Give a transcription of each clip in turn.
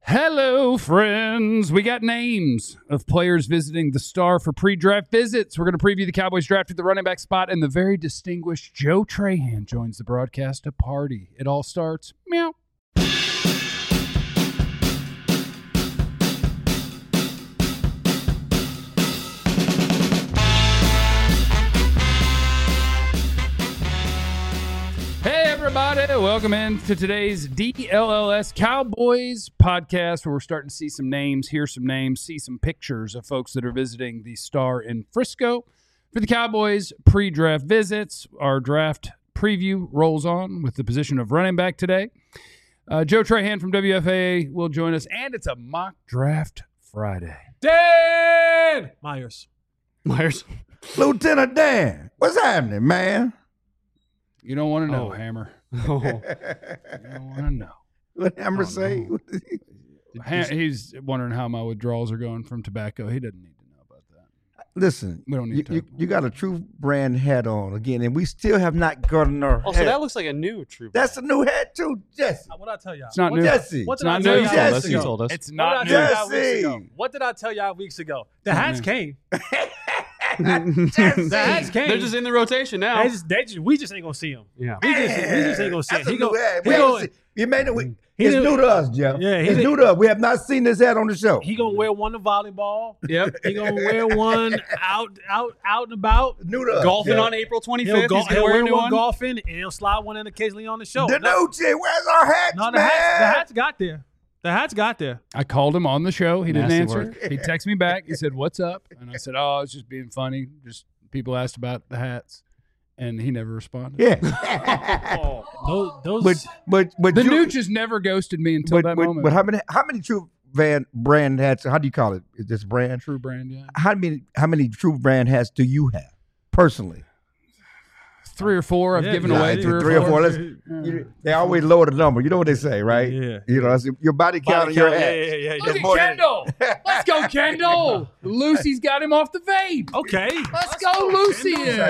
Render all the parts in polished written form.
Hello, friends. We got names of players visiting the Star for pre-draft visits. We're going to preview the Cowboys draft at the running back spot, and the very distinguished Joe Trahan joins the broadcast to party. It all starts, meow. Everybody, welcome in to today's DLLS Cowboys podcast, where we're starting to see some names, hear some names, see some pictures of folks that are visiting the Star in Frisco for the Cowboys pre-draft visits. Our draft preview rolls on with the position of running back today. Joe Trahan from WFAA will join us, and it's a mock draft Friday. Dan Myers. Lieutenant Dan, what's happening, man? You don't want to know, Hammer. You don't want to know. What Hammer say? He's wondering how my withdrawals are going from tobacco. He doesn't need to know about that. Listen, we don't need to. You got a True Brand hat on again, and we still have not gotten our hat. So that looks like a new True Brand. That's a new hat too, Jesse. What did I tell y'all? It's not new. Jesse. What did It's I not tell new. y'all Jesse. weeks ago? He told us. It's What not did I new. tell y'all weeks Jesse. ago? What did I tell y'all weeks ago? The not hats new. came. Jesse. The hats came. They're just in the rotation now. We just ain't gonna see them. Yeah. We just ain't gonna see That's them. a new hat. It's new to us, Jeff. Yeah, it's new to us. We have not seen this hat on the show. He gonna wear one to volleyball. Yep. He gonna wear one out and about. New to us. Golfing Jeff. on April 25th. He'll He's going to wear wear a new one one. golfing, and he'll slide one in occasionally on the show. Danucci, where's our hats, No, man? the hats got there. The hats got there. I called him on the show. He didn't Nasty answer. work. He texted me back. He said, "What's up?" And I said, "Oh, I was just being funny. Just people asked about the hats." And he never responded. Yeah. Those but The you, Nuke just never ghosted me until that moment. But how many True Brand hats? How do you call it? Is this brand? True Brand, yeah. How many True Brand hats do you have personally? 3 or 4. I've given away 3 or 4. They always lower the number. You know what they say, right? Yeah. You know, that's your body count and your hat. Yeah. Look more at than- Kendall. Let's go, Kendall. Lucy's got him off the vape. Okay. Let's go, Lucy. Yeah,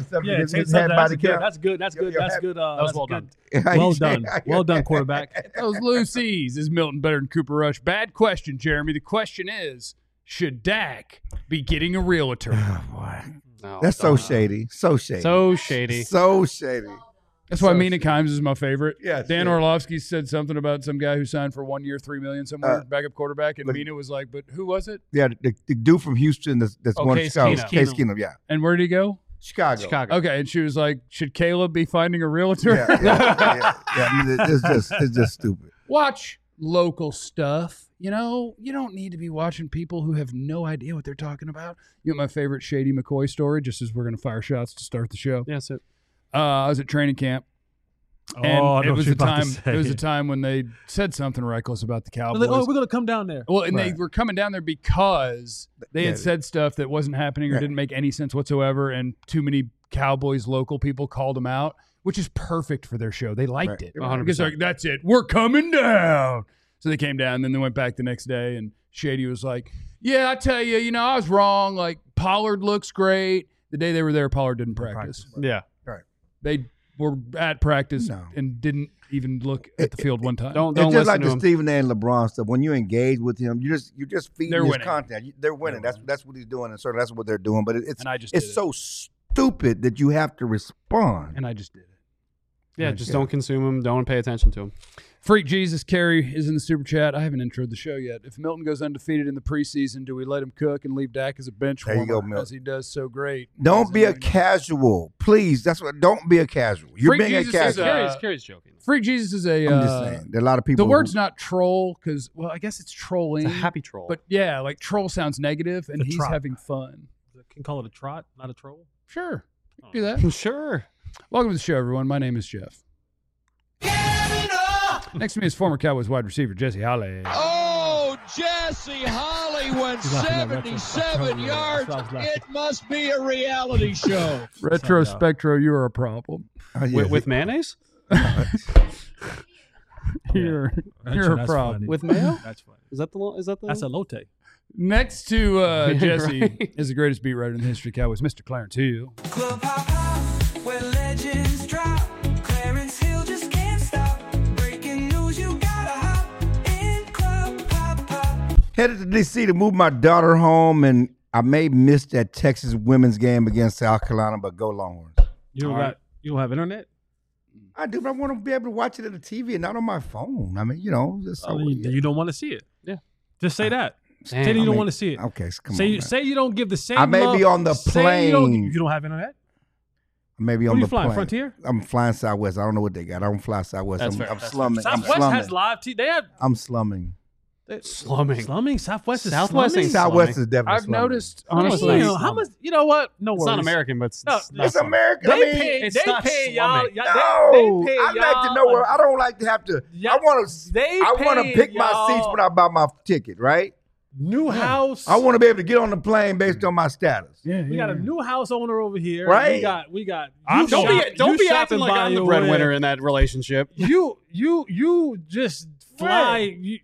His take hat body count. That's good. That's good. Your That's hat- good. That was That's well good. done. Well done. Well done, quarterback. Those Lucy's. Is Milton better than Cooper Rush? Bad question, Jeremy. The question is, should Dak be getting a realtor? Oh, boy. No, That's so don't. shady. So shady. So shady. So shady. That's why Mina Kimes is my favorite. Yeah, Dan yeah. Orlovsky said something about some guy who signed for 1 year, $3 million somewhere, backup quarterback, and look- Mina was like, "But who was it? Yeah, the dude from Houston that's one Case Chicago. Keenum. Case Keenum, yeah. And where did he go?" Chicago. Okay, and she was like, "Should Caleb be finding a realtor?" Yeah. I mean, it's just stupid. Watch local stuff. You know, you don't need to be watching people who have no idea what they're talking about. You know my favorite Shady McCoy story, just as we're going to fire shots to start the show. Yes. I was at training camp. Oh, And I know it what was you're a about to time. say. It was a time when they said something reckless about the Cowboys. Like, we're gonna come down there. Well, and they Right. were coming down there because they had Yeah. said stuff that wasn't happening or Yeah. didn't make any sense whatsoever, and too many Cowboys local people called them out, which is perfect for their show. They liked Right. it. 100%. Because they're like, that's it. We're coming down. So they came down, then they went back the next day, and Shady was like, "Yeah, I tell you, I was wrong. Like, Pollard looks great." The day they were there, Pollard didn't practice. Yeah. They were at practice No. and didn't even look at the field one time. Don't It's just listen like to the him. Stephen A. and LeBron stuff. When you engage with him, you just feed They're his winning. content. They're winning. That's what he's doing, and so that's what they're doing. But it's And I just it's did it. so stupid that you have to respond. And I just did it. Yeah, just don't consume him. Don't pay attention to him. Freak Jesus Carey is in the super chat. I haven't introed the show yet. If Milton goes undefeated in the preseason, do we let him cook and leave Dak as a bench There you warmer go, Milton. as he does so great? Don't be a As casual, please. Don't be a casual. You're Freak being a Jesus is casual. Carrie's joking. Freak Jesus is a. I'm just saying. There are a lot of people. The word's not troll because, well, I guess it's trolling. It's a happy troll. But yeah, like troll sounds negative, and The he's trot. having fun. Can call it a trot, not a troll. Sure, do that. Sure. Welcome to the show, everyone. My name is Jeff. Next to me is former Cowboys wide receiver Jesse Holly. Oh, Jesse Holly went 77 yards. It must be a reality show. Retro Spectro, you are a problem. Oh, yeah. With mayonnaise? You're a problem. With mayo? That's funny. Is that the? That's a lotte. Next to Jesse Right. is the greatest beat writer in the history of Cowboys, Mr. Clarence Hill. Club hop hop, where legends drop. Clarence Hill just can't stop. Breaking news, you gotta hop in Club hop. Headed to D.C. to move my daughter home, and I may miss that Texas women's game against South Carolina, but go Longhorns. You don't have internet? I do, but I want to be able to watch it on the TV and not on my phone. I mean, You don't want to see it. Yeah. Just say that. Damn. Say that you don't want to see it. Okay, come on. Say you don't give the same. I may love. be on the Say plane. You don't have internet. Maybe Who on you the flying? plane. Frontier? I'm flying Southwest. I don't know what they got. I don't fly Southwest. That's I'm fair. That's slumming. I'm Southwest slumming. has live TV. They have I'm slumming. Slumming. slumming. Southwest is Southwest slumming. ain't Southwest slumming. is definitely I've slumming. noticed, Damn, honestly, how much? You know what? No worries. It's not American, but it's, No, it's not It's slumming. American. They I mean, pay. it's They not pay y'all. slumming. They no, pay I like to y'all. know where. I don't like to have to. Yeah, I want to. they I want to pay pick my y'all. seats when I buy my ticket. Right. New house. I want to be able to get on the plane based on my status. yeah, We got a new house owner over here. Right. We got. I'm- you Don't be shopping acting like by I'm the your breadwinner way. in that relationship. You just fly.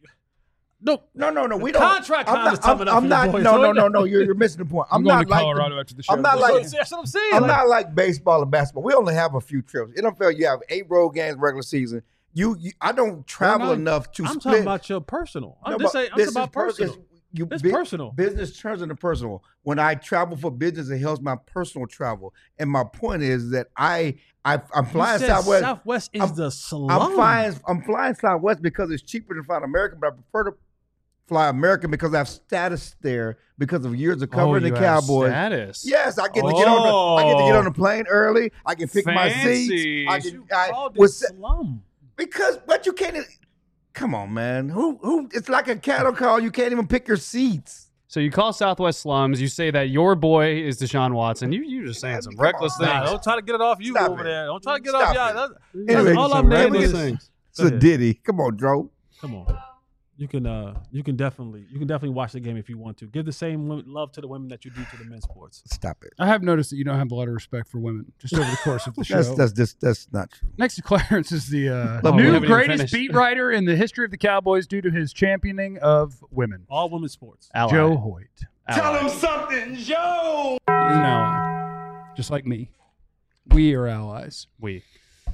No, No. We The don't. contract I'm time not, is coming up I'm for not. you boys, No. so- You're missing the point. I'm I'm going not to like. Colorado after the show. I'm not like. that's what I'm saying. I'm Like, not like baseball and basketball. We only have a few trips. NFL, you have 8 road games regular season. I don't travel no, enough to I'm split. talking about your personal. I'm No, just but saying. I'm this talking about is per- personal. it's- It's personal. Business turns into personal. When I travel for business, it helps my personal travel. And my point is that I'm flying You said Southwest. Southwest is I'm- the slum. I'm flying Southwest because it's cheaper than flying American, but I prefer to fly American because I have status there because of years of covering the you have Cowboys. status. Yes, I get to get on the plane early. I can pick my Fancy. seats. You called it was- slum. because but you can't. Come on, man. Who? It's like a cattle call. You can't even pick your seats. So you call Southwest slums. You say that your boy is Deshaun Watson. You're just saying some Come reckless on. things. Nah, don't try to get it off you Stop over it. there. Don't try to get Stop off it. y'all. That's Anyway, all some I'm naming reckless is. things. It's a ditty. Come on, Dro. Come on. You can definitely watch the game if you want to. Give the same love to the women that you do to the men's sports. Stop it. I have noticed that you don't have a lot of respect for women just over the course of the show. That's not true. Next to Clarence is the Love new me. Haven't even greatest finished. beat writer in the history of the Cowboys due to his championing of women, All women's sports. Ally. Joe Hoyt. Ally. He's an ally, just like me. We are allies. We.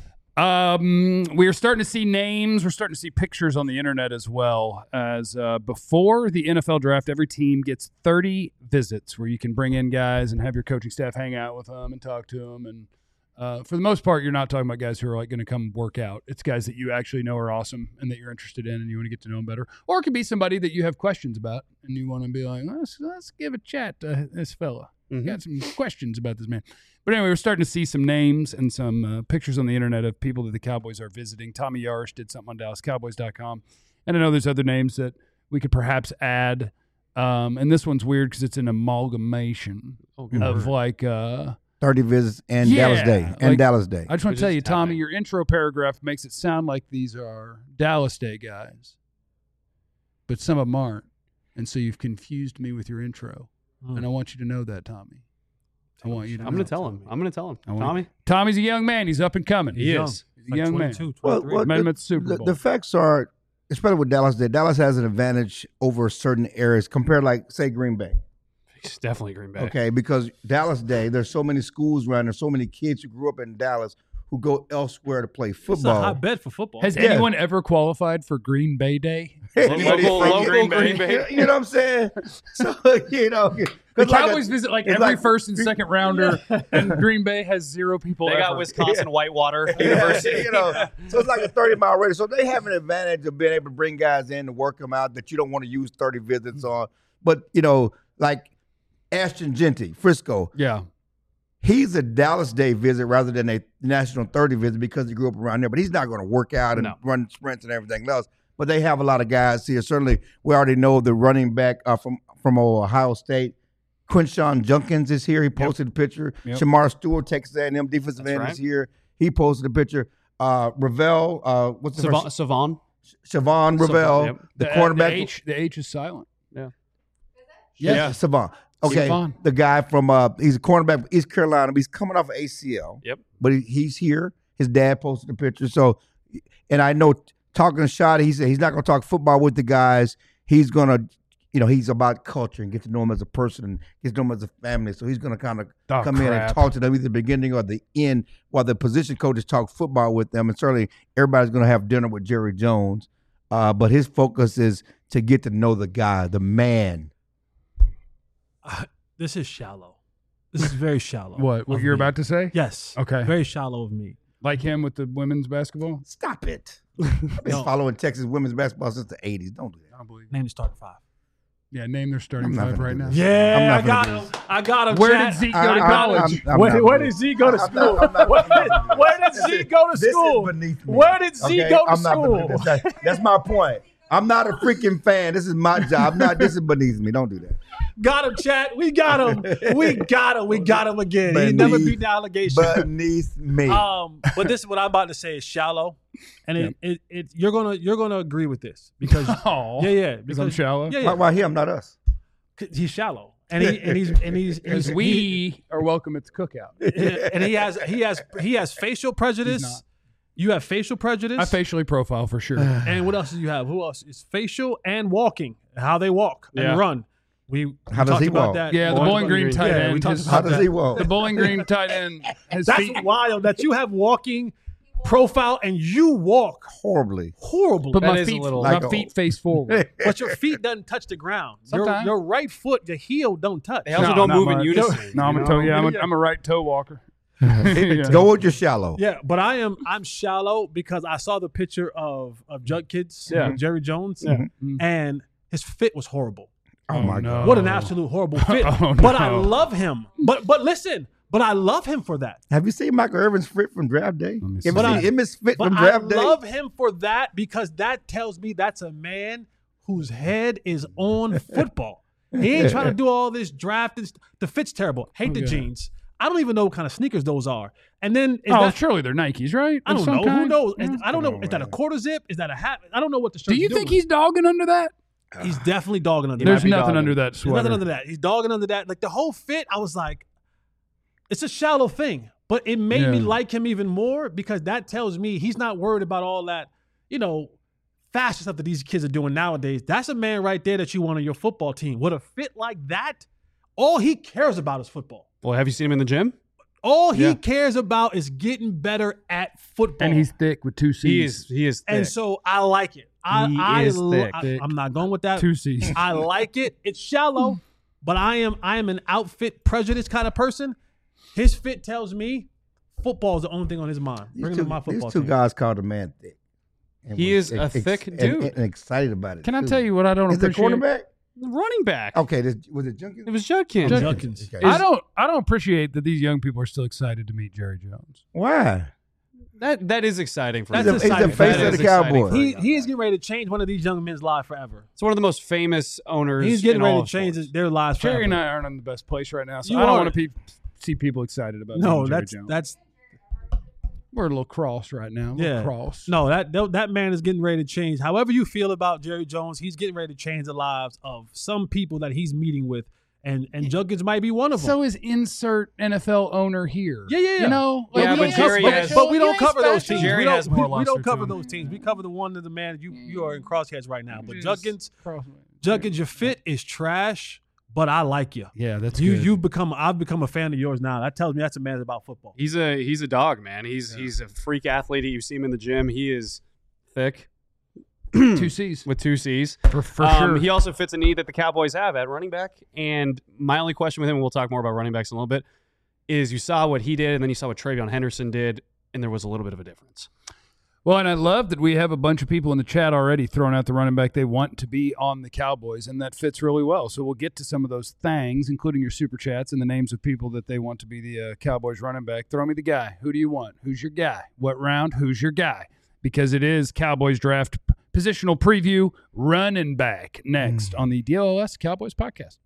We are starting to see names. We're starting to see pictures on the internet as well. As before the NFL draft, every team gets 30 visits where you can bring in guys and have your coaching staff hang out with them and talk to them. And for the most part, you're not talking about guys who are like going to come work out. It's guys that you actually know are awesome and that you're interested in and you want to get to know them better. Or it could be somebody that you have questions about and you want to be like, let's give a chat to this fella. Got some questions about this man. But anyway, we're starting to see some names and some pictures on the internet of people that the Cowboys are visiting. Tommy Yarish did something on DallasCowboys.com. And I know there's other names that we could perhaps add. And this one's weird because it's an amalgamation of like 30 visits and Yeah, Dallas Day. And like- Dallas Day. I just want to It tell is you, Tommy, happening. your intro paragraph makes it sound like these are Dallas Day guys. But some of them aren't. And so you've confused me with your intro. And I want you to know that, Tommy. I want you to I'm know. going to tell him. I'm going to tell him. I want- Tommy? Tommy's a young man. He's up and coming. He is. He's a young man. 22, 23. Well, Met him at the Super Bowl. The facts are, especially with Dallas Day, Dallas has an advantage over certain areas compared, like, say, Green Bay. He's definitely Green Bay. Okay, because Dallas Day, there's so many schools around, there's so many kids who grew up in Dallas who go elsewhere to play It's a football. hotbed for football. Has Yeah. anyone ever qualified for Green Bay Day? Anybody Local from Green Bay. You know what I'm saying? So, you know. The 'cause like Cowboys visit like it's every like- first and second rounder, and Green Bay has 0 people They ever. got Wisconsin Whitewater Yeah, University. you know, so it's like a 30-mile radius. So they have an advantage of being able to bring guys in to work them out that you don't want to use 30 visits on. But, you know, like Ashton Genty, Frisco, Yeah. he's a Dallas Day visit rather than a National 30 visit because he grew up around there. But he's not going to work out and No. run sprints and everything else. But they have a lot of guys here. Certainly, we already know the running back from Ohio State. Quinshawn Junkins is here. He posted a picture. Yep. Shamar Stewart, Texas A&M defensive That's end, right. is here. He posted a picture. Ravel, what's the first? Savon. Siobhan Ravel, Yep. the cornerback. The H is silent. Yes, Yeah. Savon. Okay, Savon. the guy from he's a cornerback from East Carolina. But he's coming off of ACL. Yep. But he's here. His dad posted a picture. So, and I know talking to Shotty, he said he's not going to talk football with the guys. He's going to, you know, he's about culture and get to know him as a person and get to know him as a family. So he's going to kind of Oh, come in and crap. talk to them either the beginning or the end while the position coaches talk football with them. And certainly everybody's going to have dinner with Jerry Jones. but his focus is to get to know the guy, the man. This is shallow. This is very shallow. What of you're me. about to say? Yes. Okay. Very shallow of me. Like him with the women's basketball? Stop it. I've been No. following Texas women's basketball since the 80s. Don't do that. I don't believe it. Name the starting five. Yeah, name their starting I'm not five gonna right do now. this. Yeah, I'm not I got gonna do him. I got him. Where chat. did Zeke go to I- college? I'm Where, not where gonna did do Zeke go to I'm school? not- I'm not- Where I'm not did- gonna do where this. did Zeke go to This school? is beneath me. Where did Zeke Okay? go to I'm not gonna school? do this. That's my point. I'm not a freaking fan. This is my job. This is beneath me. Don't do that. Got him, chat. We got him. We got him. We got him again. He never beat the allegation. Beneath me. But this is what I'm about to say is shallow, and you're gonna agree with this because Oh, because I'm shallow. Yeah, Why him, not us? he's shallow, and he's Because we are welcome at the cookout. and he has facial prejudice. He's not. You have facial prejudice. I facially profile for sure. And what else do you have? Who else? It's facial and walking, how they walk Yeah. and run. We How does talked he about walk? that. Yeah, the Bowling Green tight Yeah, we end. talked his- about How does that. he walk? The Bowling Green tight end. His That's feet. wild that you have walking profile and you walk Horribly. horribly. But That my is a feet, little- my Like a- feet face forward. But your feet doesn't touch the ground. Sometimes. Your right foot, the heel don't touch. They also No, don't not move in much. unison. No, I'm you a know? toe. Yeah, I'm a right toe walker. Go with your shallow. Yeah, but I'm shallow because I saw the picture of Jug Kids, Yeah. Jerry Jones, Yeah. and his fit was horrible. Oh, my no. God. What an absolute horrible fit. Oh, But I no. love him. But listen, but I love him for that. Have you seen Michael Irvin's fit from draft day? me Ever see. But seen I- Emmitt's fit But from I draft day? love him for that because that tells me that's a man whose head is on football. He ain't trying to do all this draft. The fit's terrible. Hate the yeah. jeans. I don't even know what kind of sneakers those are. And then is Oh, that, surely they're Nikes, right? I Of don't some know. Who kind? knows? Yeah. I don't know. on, Is that a man. quarter zip? Is that a hat? I don't know what the shirt Do you think he's dogging under that? He's definitely dogging under There's that. nothing dogging. under that There's sweater. nothing under that. He's dogging under that. Like the whole fit, I was like, it's a shallow thing. But it made me Yeah. like him even more because that tells me he's not worried about all that, fashion stuff that these kids are doing nowadays. That's a man right there that you want on your football team. With a fit like that, all he cares about is football. Well, have you seen him in the gym? All he Yeah. cares about is getting better at football. And he's thick with two C's. He is thick. And so I like it. He is thick. I'm not going with that. Two C's. I like it. It's shallow, but I am an outfit prejudice kind of person. His fit tells me football is the only thing on his mind. Bring him to my football These two team. guys called a man thick. And He was is a thick dude. And excited about it. Can I too. tell you what I don't Is the appreciate? cornerback? running back. Okay, was it Junkins? It was Judkins. Judkins. Okay. I don't appreciate that these young people are still excited to meet Jerry Jones. Why? That is exciting for That's me. He's the exciting. face That of is the Cowboys. He is getting ready to change one of these young men's lives forever. It's one of the most famous owners. He's getting in ready all to of change sports. their lives forever. Jerry and I aren't in the best place right now, so You I don't are. want to see people excited about No, meeting Jerry that's Jones. We're a little cross right now. A little Yeah. cross. no that man is getting ready to change. However you feel about Jerry Jones, he's getting ready to change the lives of some people that he's meeting with, and Judkins might be one of them. So is insert NFL owner here. Yeah. You know, Yeah, we but ain't Jerry special. has- But we You don't ain't cover those special. teams. Jerry we don't, has more we don't luster cover to him. those teams. We cover the one of the man you are in crosshairs right now. But Just Judkins, cross- your fit is trash, but I like you. Yeah, that's I've become a fan of yours now. That tells me that's a man about football. He's a dog, man. He's a freak athlete. You see him in the gym. He is thick two C's with two C's. for sure. He also fits a need that the Cowboys have at running back. And my only question with him, and we'll talk more about running backs in a little bit, is you saw what he did, and then you saw what Travion Henderson did, and there was a little bit of a difference. Well, and I love that we have a bunch of people in the chat already throwing out the running back they want to be on the Cowboys, and that fits really well. So we'll get to some of those things, including your super chats and the names of people that they want to be the Cowboys running back. Throw me the guy. Who do you want? Who's your guy? What round? Who's your guy? Because it is Cowboys draft positional preview running back next on the DLS Cowboys podcast.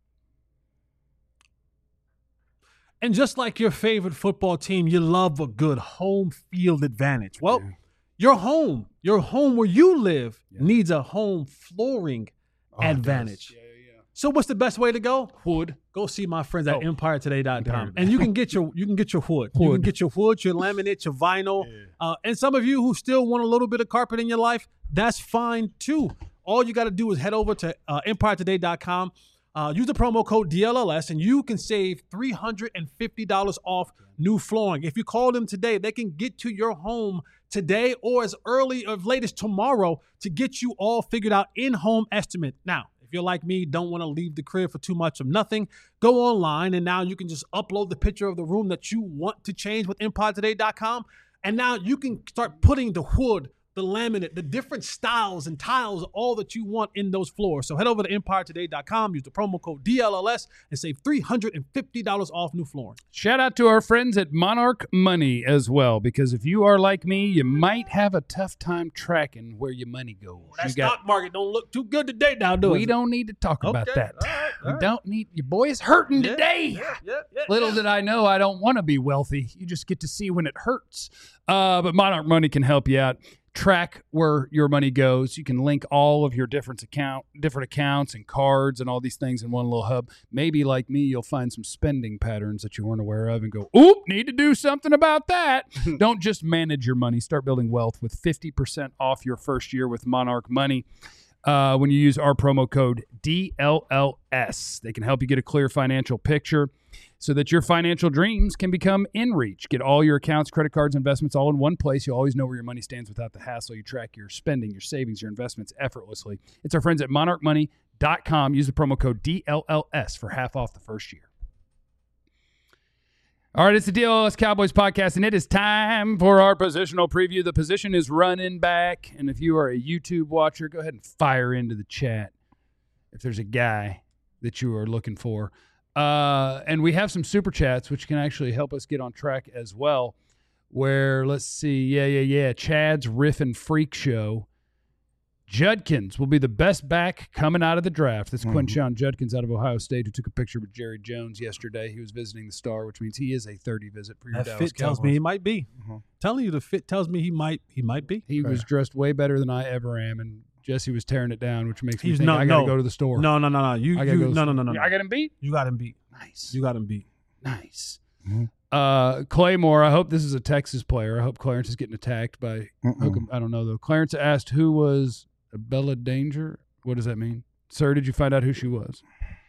And just like your favorite football team, you love a good home field advantage. Well, your home where you live needs a home flooring advantage. So what's the best way to go? Wood. Go see my friends at EmpireToday.com. Empire. And you can get your wood. You can get your wood, your laminate, your vinyl. And some of you who still want a little bit of carpet in your life, that's fine too. All you got to do is head over to EmpireToday.com. Use the promo code DLLS, and you can save $350 off new flooring. If you call them today, they can get to your home today or as early or as late as tomorrow to get you all figured out in-home estimate. Now, if you're like me, don't want to leave the crib for too much of nothing, go online and now you can just upload the picture of the room that you want to change with EmpireToday.com. And now you can start putting the wood, the laminate, the different styles and tiles, all that you want in those floors. So head over to EmpireToday.com, use the promo code DLLS, and save $350 off new flooring. Shout out to our friends at Monarch Money as well, because if you are like me, you might have a tough time tracking where your money goes. That stock market don't look too good today now, do it? We don't need to talk about Okay. that. All right. We don't need your boy is hurting today. Little did I know I don't want to be wealthy. You just get to see when it hurts. But Monarch Money can help you out. Track where your money goes. You can link all of your different accounts and cards and all these things in one little hub. Maybe like me, you'll find some spending patterns that you weren't aware of and go, oop, need to do something about that. Don't just manage your money. Start building wealth with 50% off your first year with Monarch Money. When you use our promo code DLLS, they can help you get a clear financial picture so that your financial dreams can become in reach. Get all your accounts, credit cards, investments all in one place. You'll always know where your money stands without the hassle. You track your spending, your savings, your investments effortlessly. It's our friends at monarchmoney.com. Use the promo code DLLS for half off the first year. All right, it's the DLLS Cowboys podcast, and it is time for our positional preview. The position is running back, and if you are a YouTube watcher, go ahead and fire into the chat if there's a guy that you are looking for. And we have some super chats, which can actually help us get on track as well, where, let's see, yeah, Chad's Riff and Freak Show. Judkins will be the best back coming out of the draft. That's Quinshon Judkins out of Ohio State, who took a picture with Jerry Jones yesterday. He was visiting the Star, which means he is a 30 visit for your That Dallas fit tells Cowboys. me he might be. Telling you the fit tells me he might be. He was dressed way better than I ever am, and Jesse was tearing it down, which makes me He's think not- I got to no. go to the store. No. I gotta go to the store. No. I got him beat? You got him beat. Nice. You got him beat. Nice. Claymore, I hope this is a Texas player. I hope Clarence is getting attacked by I don't know, though. Clarence asked who was Bella Danger. What does that mean? Sir, did you find out who she was?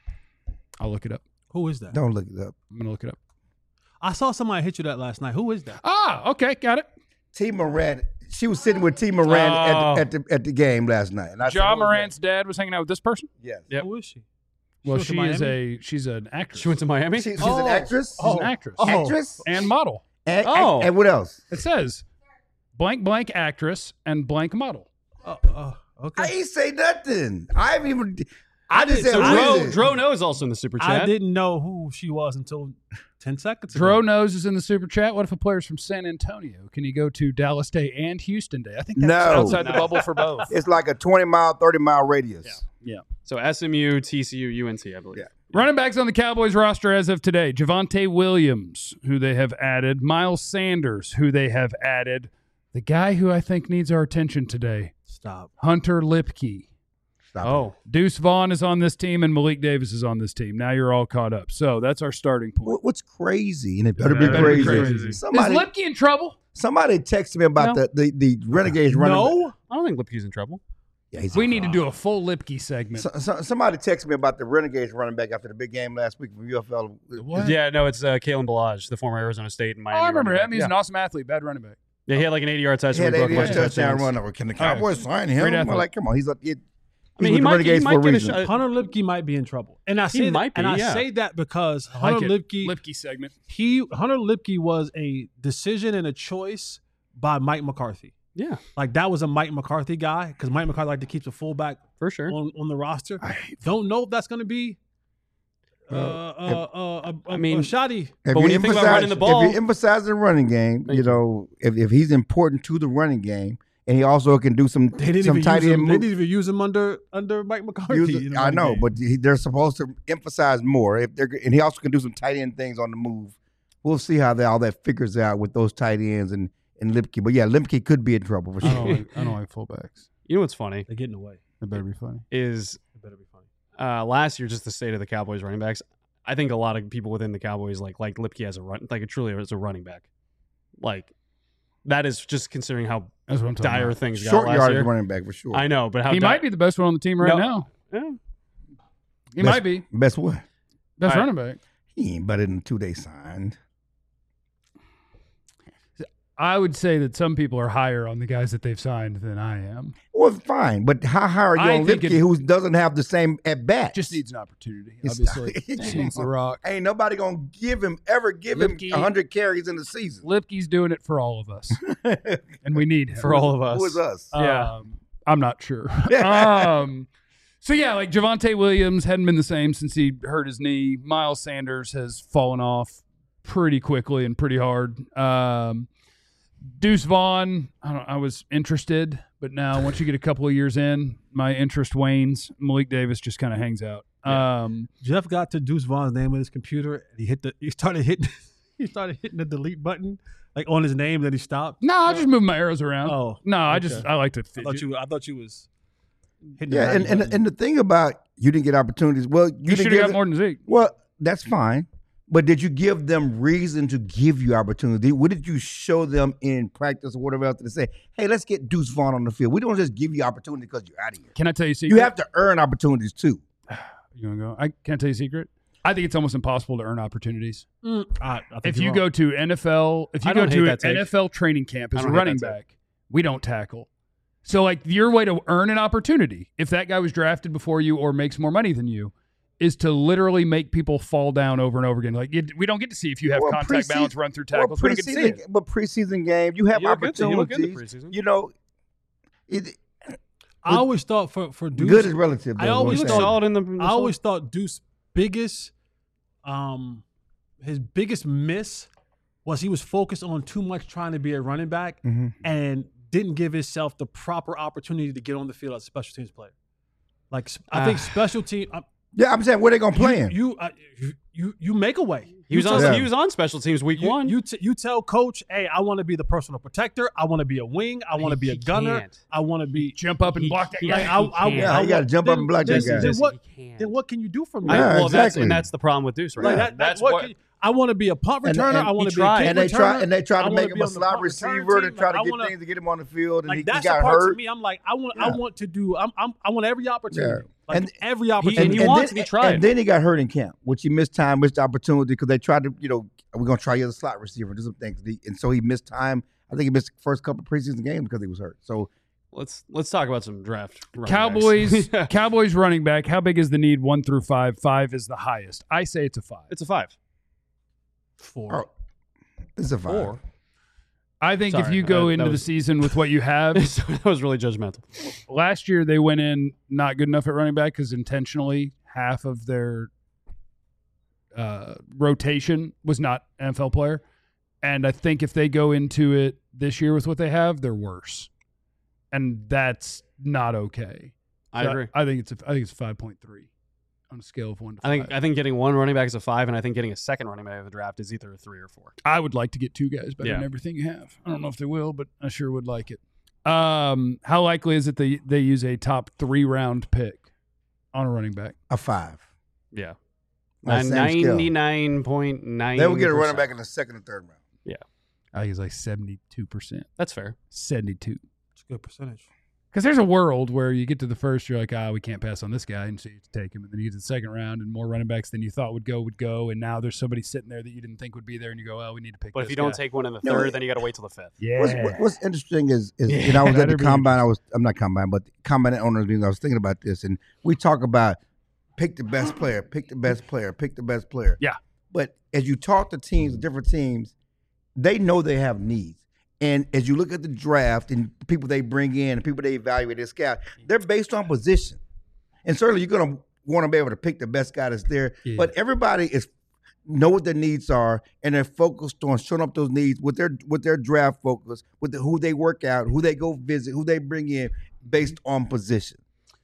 I'll look it up. Who is that? Don't look it up. I'm going to look it up. I saw somebody hit you that last night. Who is that? Okay, got it. T. Moran. She was sitting with T. Moran at the game last night. And I said, Ja "Who is that?" Morant's dad was hanging out with this person? Yes. Yep. Who is she? Well, went to Miami? she's an actress. She went to Miami? She's an actress. She's an actress. Actress. And model. And, Oh. and what else? It says blank actress and blank model. I Okay. ain't say nothing. I haven't even. I just said So who is it? Dro knows also in the super chat. I didn't know who she was until 10 seconds ago. Dro knows is in the super chat. What if a player's from San Antonio? Can he go to Dallas Day and Houston Day? I think that's No. outside the bubble for both. It's like a 20-mile, 30-mile radius. Yeah. So SMU, TCU, UNC, I believe. Yeah. Running backs on the Cowboys roster as of today: Javonte Williams, who they have added; Miles Sanders, who they have added; the guy who I think needs our attention today, Stop. Hunter Lipke. Stop it. Oh, Deuce Vaughn is on this team, and Malik Davis is on this team. Now you're all caught up. So that's our starting point. What's crazy? And it better be It better be crazy. crazy. Somebody, Is Lipke in trouble? somebody texted me about No. the Renegades running back. No. I don't think Lipke's in trouble. Yeah, he's We need to do a full Lipke segment. Somebody texted me about the Renegades running back after the big game last week from UFL. What? Yeah, no, it's Kalen Balaj, the former Arizona State and Oh, Miami. I remember running him. back. He's yeah. an awesome athlete, bad running back. Yeah, he had like an 80-yard He touchdown. had He broke a 80 bunch of touchdown touchdowns. run. Can the Cowboys sign him? Great I'm athlete. like, come on, he's I mean, with he the might Renegades for a get a reason. shot. Hunter Lipke might be in trouble. And I say might be, and I yeah. say that because I like Hunter it. Lipke Lipke segment. Hunter Lipke was a decision and a choice by Mike McCarthy. Yeah, Like that was a Mike McCarthy guy because Mike McCarthy liked to keep the fullback for sure. on the roster. Don't know if that's going to be I mean, shoddy. If But when you think about running the ball- if you emphasize the running game, Thank you know, if he's important to the running game, and he also can do some They didn't some even tight use end him. They moves. didn't even use him under Mike McCarthy. in the I running know, game. but they're supposed to emphasize more. And he also can do some tight end things on the move. We'll see how all that figures out with those tight ends and Lipke. But yeah, Lipke could be in trouble for I sure. don't like fullbacks. You know what's funny they're getting away. It better be funny. is It better be funny. last year, just the state of the Cowboys running backs. I think a lot of people within the Cowboys like Lipke as a run, like truly as a running back. Like that is just considering how That's what I'm talking dire about. things got Short last yardage year. running back for sure. I know, but how He might be the best one on the team right now. Yeah. He Best- might be. Best what? Best All right. running back. He ain't better than 2 days signed. I would say that some people are higher on the guys that they've signed than I am. Well, fine, but how high are you I on think Lipke, it- who doesn't have the same at bat? Just needs an opportunity, It's- obviously. Just needs the rock. Ain't nobody gonna give him Lipke- 100 carries in the season. Lipke's doing it for all of us, and we need him. For all of us. Who is us? Yeah. I'm not sure. So yeah, like Javonte Williams hadn't been the same since he hurt his knee. Miles Sanders has fallen off pretty quickly and pretty hard. Deuce Vaughn, I was interested, but now once you get a couple of years in, my interest wanes. Malik Davis just kind of hangs out. Jeff got to Deuce Vaughn's name on his computer, and he started hitting the delete button like on his name. Then he stopped. No, I just move my arrows around. Oh, no, I okay. like to I fidget. thought you was hitting. Yeah, the button. and the thing about you didn't get opportunities. Well, you You didn't should have give got them- more than Zeke. Well, that's fine. But did you give them reason to give you opportunity? What did you show them in practice or whatever else to say, hey, let's get Deuce Vaughn on the field? We don't just give you opportunity because you're out of here. Can I tell you a secret? You have to earn opportunities too. You want to go? Can I tell you a secret? I think it's almost impossible to earn opportunities. I think If you're you wrong. go to NFL, if you I go don't hate to an that take. NFL training camp I as a don't hate running that back, we don't tackle. So, like, your way to earn an opportunity, if that guy was drafted before you or makes more money than you, is to literally make people fall down over and over again. Like, we don't get to see if you have Well, contact preseason- balance, run through tackles. We don't get to see it. But preseason game, you have You look good to- you look opportunities. good in preseason. You know, it, I always thought for Deuce, good is relative. I though, always is what He I'm looked thought- saying. solid in the I always thought Deuce's biggest, his biggest miss was he was focused on too much trying to be a running back Mhm. and didn't give himself the proper opportunity to get on the field as a special teams player. Like I think special team, Yeah, I'm saying where they gonna play him. you make a way. He was You on. tell- Yeah. He was on special teams week one. You tell coach, hey, I want to be the personal protector. I want to be a wing. I want to be a He gunner. can't. I want to be. Jump up and block that he- guy. Like, I can't. Yeah, you gotta jump up and block that guy. Then what? He can't. Then what can you do for me? Yeah, well, exactly. that's the problem with Deuce, right? Like now. that, That's what what. can you- I want to be a punt And- returner. and I want he to be tried. a kick and they returner. try and they try I to wanna make be him a on the slot punt return receiver to team. try Like, to I get wanna- things to get him on the field, and Like he that's got the part hurt. to me. I'm like, I Yeah. want to do. I want every opportunity. Yeah. Like And- every opportunity. and he wants to be tried. And then he got hurt in camp, which he missed time, missed opportunity because they tried to, we're gonna try you as a slot receiver, do some things, and so he missed time. I think he missed the first couple of preseason games because he was hurt. So Let's talk about some draft. running Cowboys, backs. Cowboys running back. How big is the need? 1 through 5. 5 is the highest. I say it's a 5. It's a 5. 4. oh, it's a 5. 4. I think if Sorry, you go that into the was- season with what you have, That was really judgmental. last year they went in not good enough at running back because intentionally half of their rotation was not an NFL player. And I think if they go into it this year with what they have, they're worse. And that's not okay. I So agree. I think it's 5.3 on a scale of 1 to 5. I think getting one running back is a 5, and I think getting a second running back of the draft is either a 3 or 4. I would like to get 2 guys better than Yeah. everything you have. I don't know if they will, but I sure would like it. How likely is it they use a top 3 round pick on a running back? A 5. Yeah. On the same scale. 99.9. They will get a running back in the second and third round. I think it's like 72%. That's fair. 72. It's a good percentage. Because there's a world where you get to the first, you're like, we can't pass on this guy, and so you take him. And then you get to the second round, and more running backs than you thought would go. And now there's somebody sitting there that you didn't think would be there, and you go, we need to pick But this if you don't guy. take one in the No, third, it- then you got to wait till the 5th. Yeah. What's interesting is Yeah, and I was at that'd the be combine. I'm not combine, but the combine owners meeting. I was thinking about this, and we talk about pick the best player, pick the best player, pick the best player. Yeah. But as you talk to teams, different teams, they know they have needs. And as you look at the draft and the people they bring in and people they evaluate as scout, they're based on position. And certainly you're going to want to be able to pick the best guy that's there. Yeah. But everybody know what their needs are, and they're focused on showing up those needs with their draft focus, with who they work out, who they go visit, who they bring in, based on position.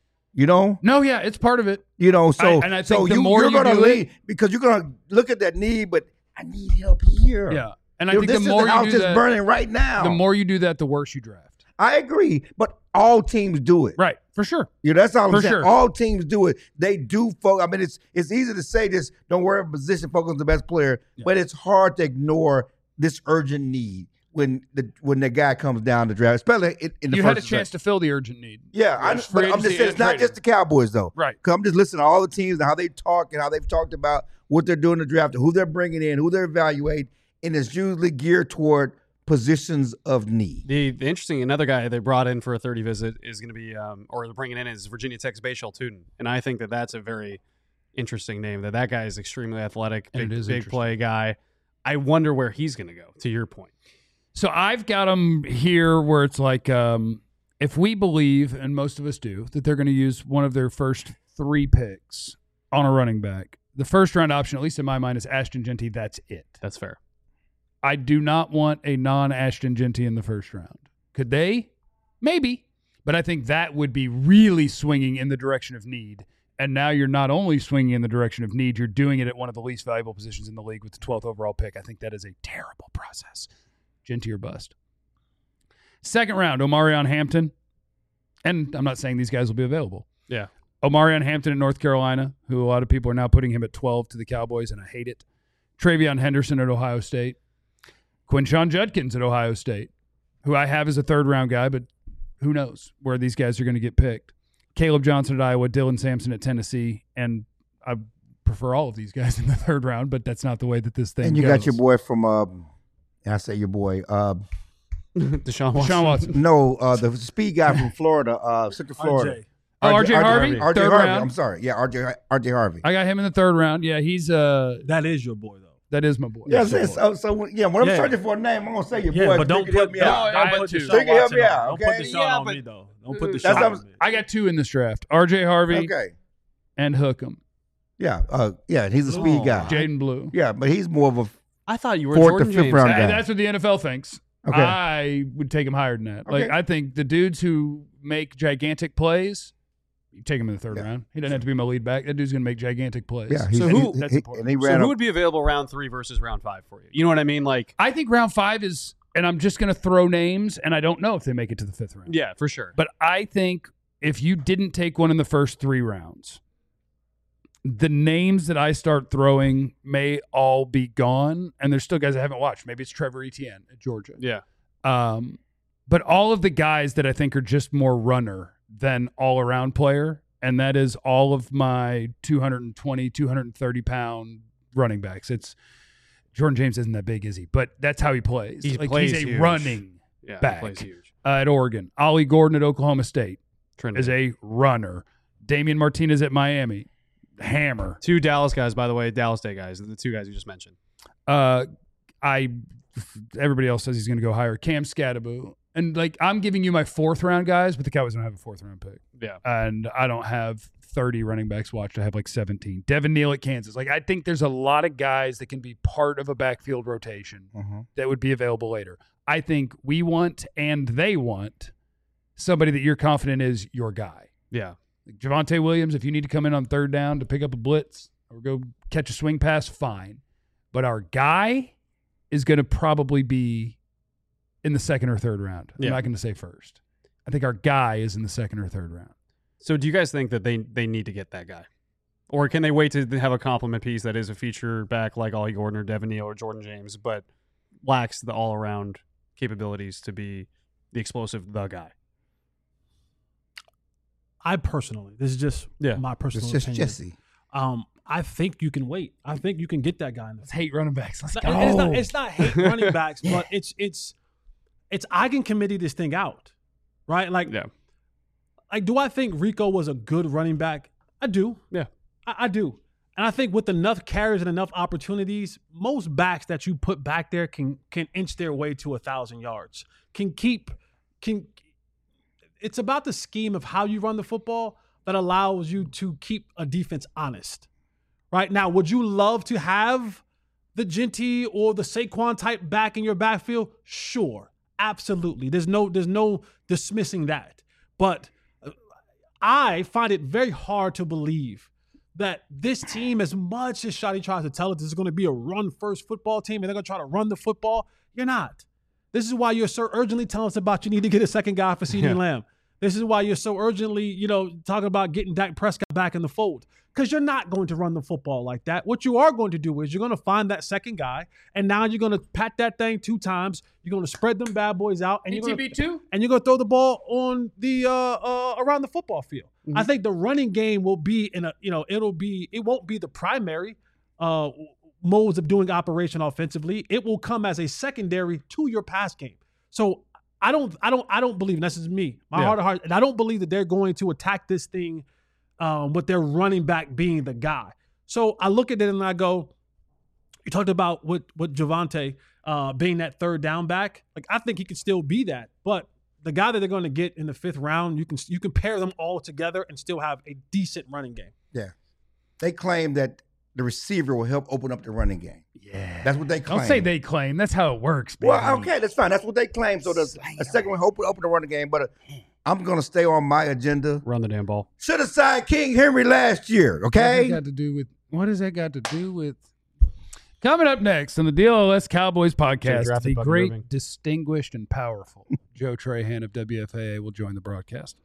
No, yeah, it's part of it. So and I so think the more you're you going to do lead because you're going to look at that need, but I need help here. Yeah. And I You know, think this the more is the house you do that's that, burning right now. the more you do that, the worse you draft. I agree, but all teams do it. Right, for sure. That's all For I'm saying. sure. All teams do it. They do focus. I mean, it's easy to say this. Don't worry about position. Focus on the best player. Yeah. But it's hard to ignore this urgent need when the guy comes down the draft, especially in the You first. had a chance to fill the urgent need. Yeah, Yeah, but free I'm just agency saying it's and not trading. just the Cowboys though. Right. Because I'm just listening to all the teams and how they talk and how they've talked about what they're doing in the draft, and who they're bringing in, who they're evaluating, and it's usually geared toward positions of need. The interesting, another guy they brought in for a 30 visit is going to be, or they're bringing in is Virginia Tech's Bashal Tootin. And I think that that's a very interesting name. That guy is extremely athletic, big play guy. I wonder where he's going to go, to your point. So I've got him here where it's like, if we believe, and most of us do, that they're going to use one of their first 3 picks on a running back, the first round option, at least in my mind, is Ashton Jeanty. That's it. That's fair. I do not want a non-Ashton Jeanty in the first round. Could they? Maybe. But I think that would be really swinging in the direction of need. And now you're not only swinging in the direction of need, you're doing it at one of the least valuable positions in the league with the 12th overall pick. I think that is a terrible process. Jeanty or bust. Second round, Omarion Hampton. And I'm not saying these guys will be available. Yeah. Omarion Hampton at North Carolina, who a lot of people are now putting him at 12 to the Cowboys, and I hate it. Travion Henderson at Ohio State. Quinshon Judkins at Ohio State, who I have as a third-round guy, but who knows where these guys are going to get picked. Caleb Johnson at Iowa, Dylan Sampson at Tennessee, and I prefer all of these guys in the third round, but that's not the way that this thing goes. And you got your boy from, I say your boy. Deshaun Watson. Deshaun Watson. No, the speed guy from Florida, Central Florida. RJ Harvey, RJ third Harvey. round. I'm sorry. Yeah, RJ Harvey. I got him in the third round. Yeah, he's That is your boy, though. that is my boy. Yeah, so when I'm searching for a name, I'm gonna say your boy. But don't you can help put me out. I don't got put two. Deshaun So you can help Watson me on. out, Don't put okay? Deshaun on me, though. Don't put Deshaun on me. I got 2 in this draft: RJ Harvey Okay. and Hookem. Yeah, he's a speed guy. Jaden Blue. Yeah, but he's more of a I thought you were 4th Jordan to 5th James. round Hey, guy. that's what the NFL thinks. Okay. I would take him higher than that. Like Okay. I think the dudes who make gigantic plays, you take him in the third round. He doesn't have to be my lead back. That dude's going to make gigantic plays. Yeah, So who- that's important. and he So ran who up. would be available round 3 versus round 5 for you? You know what I mean? Like, I think round 5 is, and I'm just going to throw names, and I don't know if they make it to the 5th round. yeah, for sure. But I think if you didn't take one in the first 3 rounds, the names that I start throwing may all be gone, and there's still guys I haven't watched. Maybe it's Trevor Etienne at Georgia. Yeah. But all of the guys that I think are just more runner than all-around player, and that is all of my 220, 230-pound running backs. It's Jordan James isn't that big, is he? But that's how he plays. He Like, plays he's a huge. running Yeah, back. he plays huge. At Oregon. Ollie Gordon at Oklahoma State Trinity. is a runner. Damian Martinez at Miami. Hammer. 2 Dallas guys, by the way, Dallas State guys, the 2 guys you just mentioned. Everybody else says he's going to go higher. Cam Scadaboo. And, like, I'm giving you my 4th round guys, but the Cowboys don't have a 4th round pick. Yeah. And I don't have 30 running backs watched. I have like 17. Devin Neal at Kansas. Like, I think there's a lot of guys that can be part of a backfield rotation that would be available later. I think we want and they want somebody that you're confident is your guy. Yeah. Like Javonte Williams, if you need to come in on 3rd down to pick up a blitz or go catch a swing pass, fine. But our guy is going to probably be in the 2nd or 3rd round. Yeah. I'm not going to say first. I think our guy is in the 2nd or 3rd round. So do you guys think that they need to get that guy? Or can they wait to have a complement piece that is a feature back like Ollie Gordon or Devin Neal or Jordan James, but lacks the all-around capabilities to be the explosive, the guy? I personally, this is just my personal It's just opinion. Jesse. I think you can wait. I think you can get that guy in the Let's hate running backs. Let's It's go. not, it's not hate running backs, but it's I can committee this thing out, right? Like, Yeah. like, do I think Rico was a good running back? I do. Yeah. I do. And I think with enough carries and enough opportunities, most backs that you put back there can inch their way to 1,000 yards. It's about the scheme of how you run the football that allows you to keep a defense honest. Right now, would you love to have the Jeanty or the Saquon type back in your backfield? Sure, absolutely. There's no dismissing that. But I find it very hard to believe that this team, as much as Shotty tries to tell us this is going to be a run-first football team and they're going to try to run the football, you're not. This is why you're so urgently telling us about you need to get a second guy for CeeDee Lamb. This is why you're so urgently, talking about getting Dak Prescott back in the fold. Because you're not going to run the football like that. What you are going to do is you're going to find that second guy, and now you're going to pat that thing 2 times. You're going to spread them bad boys out, and you're going to throw the ball on the around the football field. Mm-hmm. I think the running game will be it won't be the primary modes of doing operation offensively. It will come as a secondary to your pass game. So I don't believe, and this is me, my heart of heart, and I don't believe that they're going to attack this thing with their running back being the guy. So I look at it and I go, you talked about what Javonte being that third down back. Like, I think he could still be that, but the guy that they're going to get in the 5th round, you can pair them all together and still have a decent running game. Yeah. They claim that the receiver will help open up the running game. Yeah. That's what they claim. Don't say they claim. That's how it works, baby. Well, okay, that's fine. That's what they claim. So a second one open the running game, but I'm going to stay on my agenda. Run the damn ball. Should have signed King Henry last year, okay? What has that got to do with? Coming up next on the DLLS Cowboys podcast, the great, distinguished, and powerful Joe Trahan of WFAA will join the broadcast.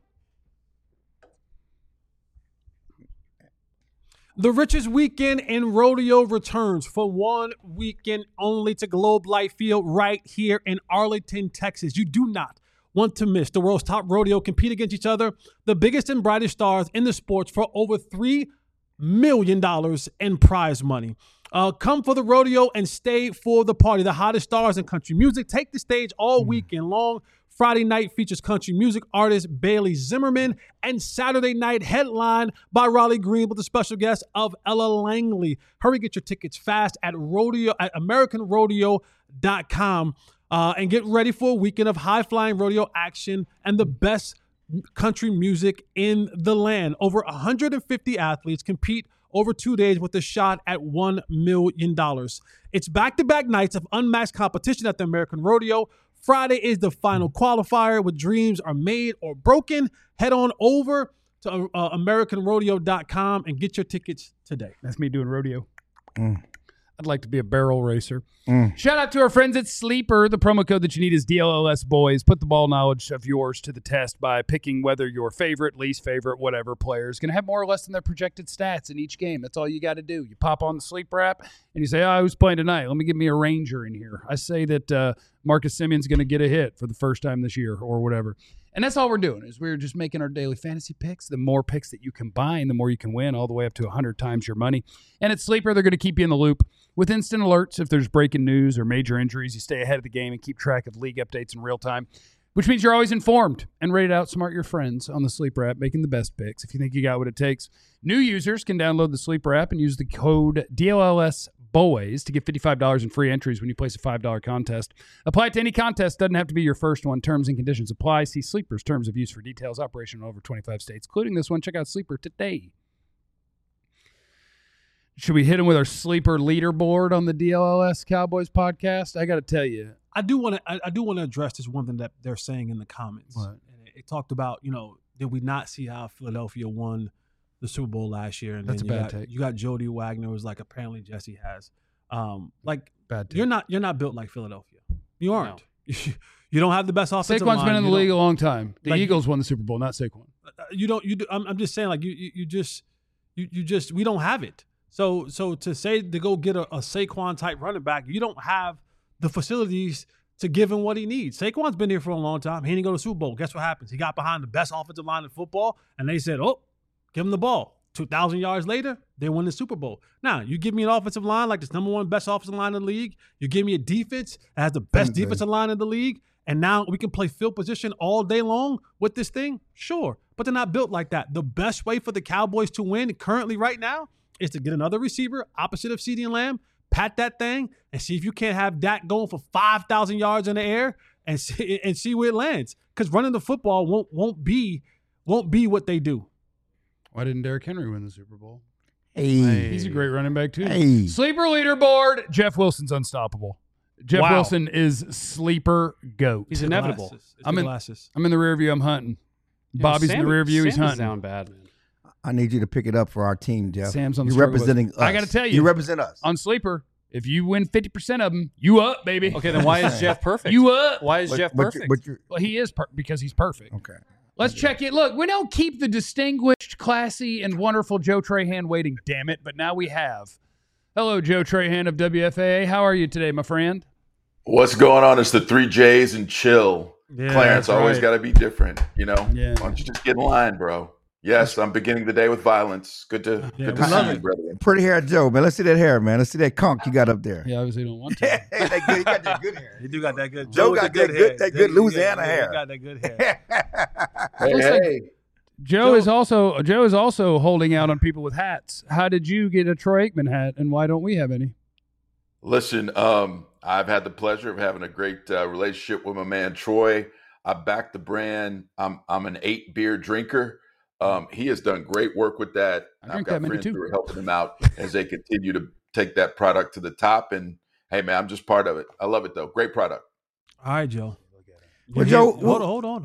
The richest weekend in rodeo returns for one weekend only to Globe Life Field right here in Arlington, Texas. You do not want to miss the world's top rodeo compete against each other, the biggest and brightest stars in the sports, for over $3 million in prize money. Come for the rodeo and stay for the party. The hottest stars in country music take the stage all weekend long. Friday night features country music artist Bailey Zimmerman, and Saturday night headlined by Raleigh Green with a special guest of Ella Langley. Hurry, get your tickets fast at AmericanRodeo.com and get ready for a weekend of high-flying rodeo action and the best country music in the land. Over 150 athletes compete over 2 days with a shot at $1 million. It's back-to-back nights of unmatched competition at the American Rodeo. Friday is the final qualifier where dreams are made or broken. Head on over to AmericanRodeo.com and get your tickets today. That's me doing rodeo. I'd like to be a barrel racer. Shout out to our friends at Sleeper. The promo code that you need is DLLS Boys. Put the ball knowledge of yours to the test by picking whether your favorite, least favorite, whatever player is going to have more or less than their projected stats in each game. That's all you got to do. You pop on the Sleeper app and you say, who's playing tonight? Let me give me a Ranger in here. I say that Marcus Simeon's going to get a hit for the first time this year or whatever. And that's all we're doing is we're just making our daily fantasy picks. The more picks that you combine, the more you can win, all the way up to 100 times your money. And at Sleeper, they're going to keep you in the loop with instant alerts if there's breaking news or major injuries. You stay ahead of the game and keep track of league updates in real time, which means you're always informed and ready to outsmart your friends on the Sleeper app, making the best picks. If you think you got what it takes, new users can download the Sleeper app and use the code DLLS Boys to get $55 in free entries when you place a $5 contest. Apply it to any contest. Doesn't have to be your first one. Terms and conditions apply. See Sleeper's terms of use for details. Operation in over 25 states, including this one. Check out Sleeper today. Should we hit him with our Sleeper leaderboard on the DLLS Cowboys podcast? I got to tell you, I do want to address this one thing that they're saying in the comments. What? And it talked about, did we not see how Philadelphia won the Super Bowl last year? And that's then a bad take. You got Jody Wagner, who's like apparently Jesse has. Bad take. You're not built like Philadelphia. You aren't. No. You don't have the best offensive Saquon's line. been in the league a long time. The Eagles won the Super Bowl, not Saquon. I'm just saying, like we don't have it. So to say to go get a Saquon type running back, you don't have the facilities to give him what he needs. Saquon's been here for a long time. He didn't go to the Super Bowl. Guess what happens? He got behind the best offensive line in football, and they said, give him the ball. 2,000 yards later, they win the Super Bowl. Now, you give me an offensive line like this #1 best offensive line in the league. You give me a defense that has the best defensive line in the league, and now we can play field position all day long with this thing? Sure, but they're not built like that. The best way for the Cowboys to win currently right now is to get another receiver opposite of CeeDee Lamb, pat that thing, and see if you can't have Dak going for 5,000 yards in the air and see where it lands. Because running the football won't be what they do. Why didn't Derrick Henry win the Super Bowl? Hey. He's a great running back, too. Hey. Sleeper leaderboard. Jeff Wilson's unstoppable. Jeff Wilson is sleeper GOAT. He's inevitable. I'm in the rear view. I'm hunting. Bobby's in the rear view. He's hunting. Sound bad, man. I need you to pick it up for our team, Jeff. Sam's on the You're representing us. I got to tell you. You represent us. On Sleeper, if you win 50% of them, you up, baby. Okay, then why is Jeff perfect? You up. Why is Jeff perfect? Well, he is because he's perfect. Okay. Let's check it. Look, we don't keep the distinguished, classy, and wonderful Joe Trahan waiting, damn it, but now we have. Hello, Joe Trahan of WFAA. How are you today, my friend? What's going on? It's the 3 J's and chill. Yeah, Clarence, always got to be different, Yeah. Why don't you just get in line, bro? Yes, I'm beginning the day with violence. Good to see you, brother. Pretty hair Joe, man. Let's see that hair, man. Let's see that conch you got up there. Yeah, obviously don't want to. Hey, that good, you got that good hair. You do got that good. Joe got that good Louisiana hair. You got that good hair. Hey. Joe is also holding out on people with hats. How did you get a Troy Aikman hat, and why don't we have any? Listen, I've had the pleasure of having a great relationship with my man Troy. I back the brand. I'm an 8-beer drinker. He has done great work with that. I've got friends who are helping him out as they continue to take that product to the top. And hey, man, I'm just part of it. I love it though. Great product. All right, Joe. Well, Joe, hold on.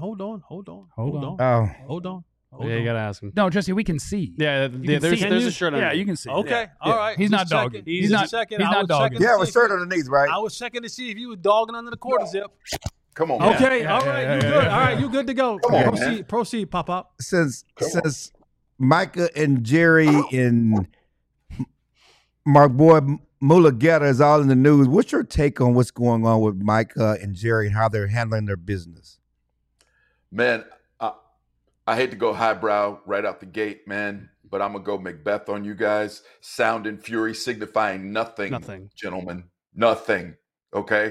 Yeah, you gotta ask him. No, Jesse, we can see. Yeah, there's a shirt on. Yeah, you can see. Okay, all right. He's not dogging. He's not dogging. Yeah, with shirt underneath, right? I was checking to see if you were dogging under the quarter zip. Come on, man. Okay, all right, you good. All right, you good to go. Come on, Proceed, Pop. Since Micah and Jerry and Mark Boy Mulugeta is all in the news, what's your take on what's going on with Micah and Jerry and how they're handling their business? Man, I hate to go highbrow right out the gate, man, but I'm going to go Macbeth on you guys. Sound and fury signifying nothing. Gentlemen. Nothing. Okay?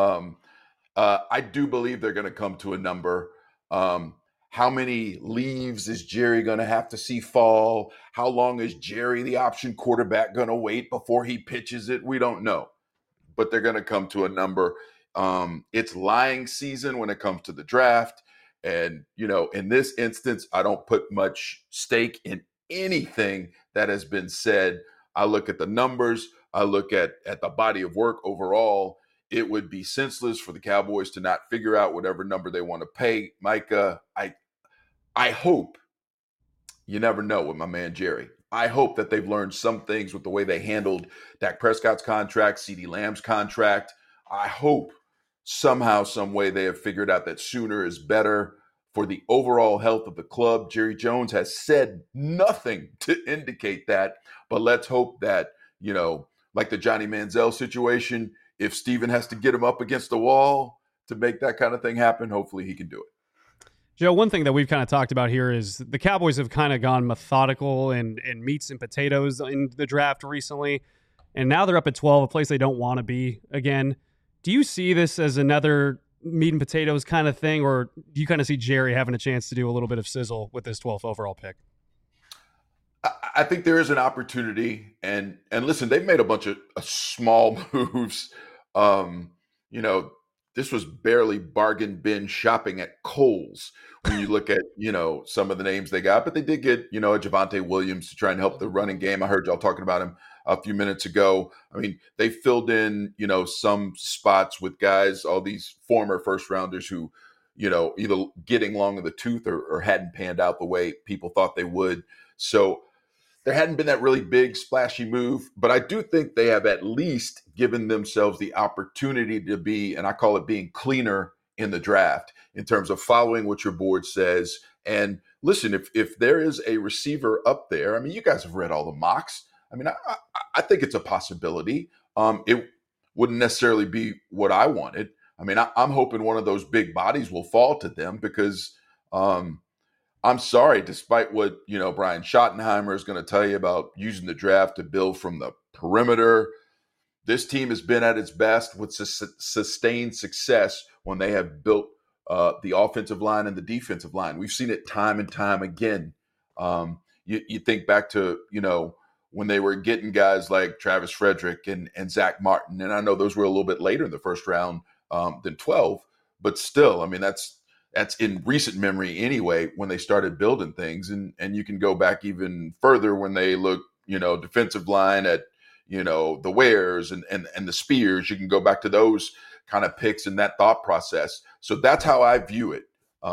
I do believe they're going to come to a number. How many leaves is Jerry going to have to see fall? How long is Jerry, the option quarterback, going to wait before he pitches it? We don't know. But they're going to come to a number. It's lying season when it comes to the draft. And, in this instance, I don't put much stake in anything that has been said. I look at the numbers. I look at the body of work overall. It would be senseless for the Cowboys to not figure out whatever number they want to pay Micah. I hope, you never know with my man Jerry. I hope that they've learned some things with the way they handled Dak Prescott's contract, CeeDee Lamb's contract. I hope somehow, some way they have figured out that sooner is better for the overall health of the club. Jerry Jones has said nothing to indicate that, but let's hope that, like the Johnny Manziel situation, if Steven has to get him up against the wall to make that kind of thing happen, hopefully he can do it. Joe, one thing that we've kind of talked about here is the Cowboys have kind of gone methodical and meats and potatoes in the draft recently, and now they're up at 12, a place they don't want to be again. Do you see this as another meat and potatoes kind of thing, or do you kind of see Jerry having a chance to do a little bit of sizzle with this 12th overall pick? I think there is an opportunity, and listen, they've made a bunch of small moves. This was barely bargain bin shopping at Kohl's when you look at, some of the names they got, but they did get, a Javonte Williams to try and help the running game. I heard y'all talking about him a few minutes ago. I mean, they filled in, some spots with guys, all these former first rounders who, either getting long in the tooth or hadn't panned out the way people thought they would. So there hadn't been that really big splashy move, but I do think they have at least given themselves the opportunity to be, and I call it being cleaner in the draft in terms of following what your board says. And listen, if there is a receiver up there, I mean, you guys have read all the mocks. I mean, I think it's a possibility. It wouldn't necessarily be what I wanted. I mean, I'm hoping one of those big bodies will fall to them because I'm sorry, despite what, Brian Schottenheimer is going to tell you about using the draft to build from the perimeter, this team has been at its best with sustained success when they have built the offensive line and the defensive line. We've seen it time and time again. You think back to, when they were getting guys like Travis Frederick and Zach Martin, and I know those were a little bit later in the first round than 12, but still, I mean, that's in recent memory anyway, when they started building things. And you can go back even further when they look, defensive line at, the Wares and the Spears. You can go back to those kind of picks and that thought process. So that's how I view it.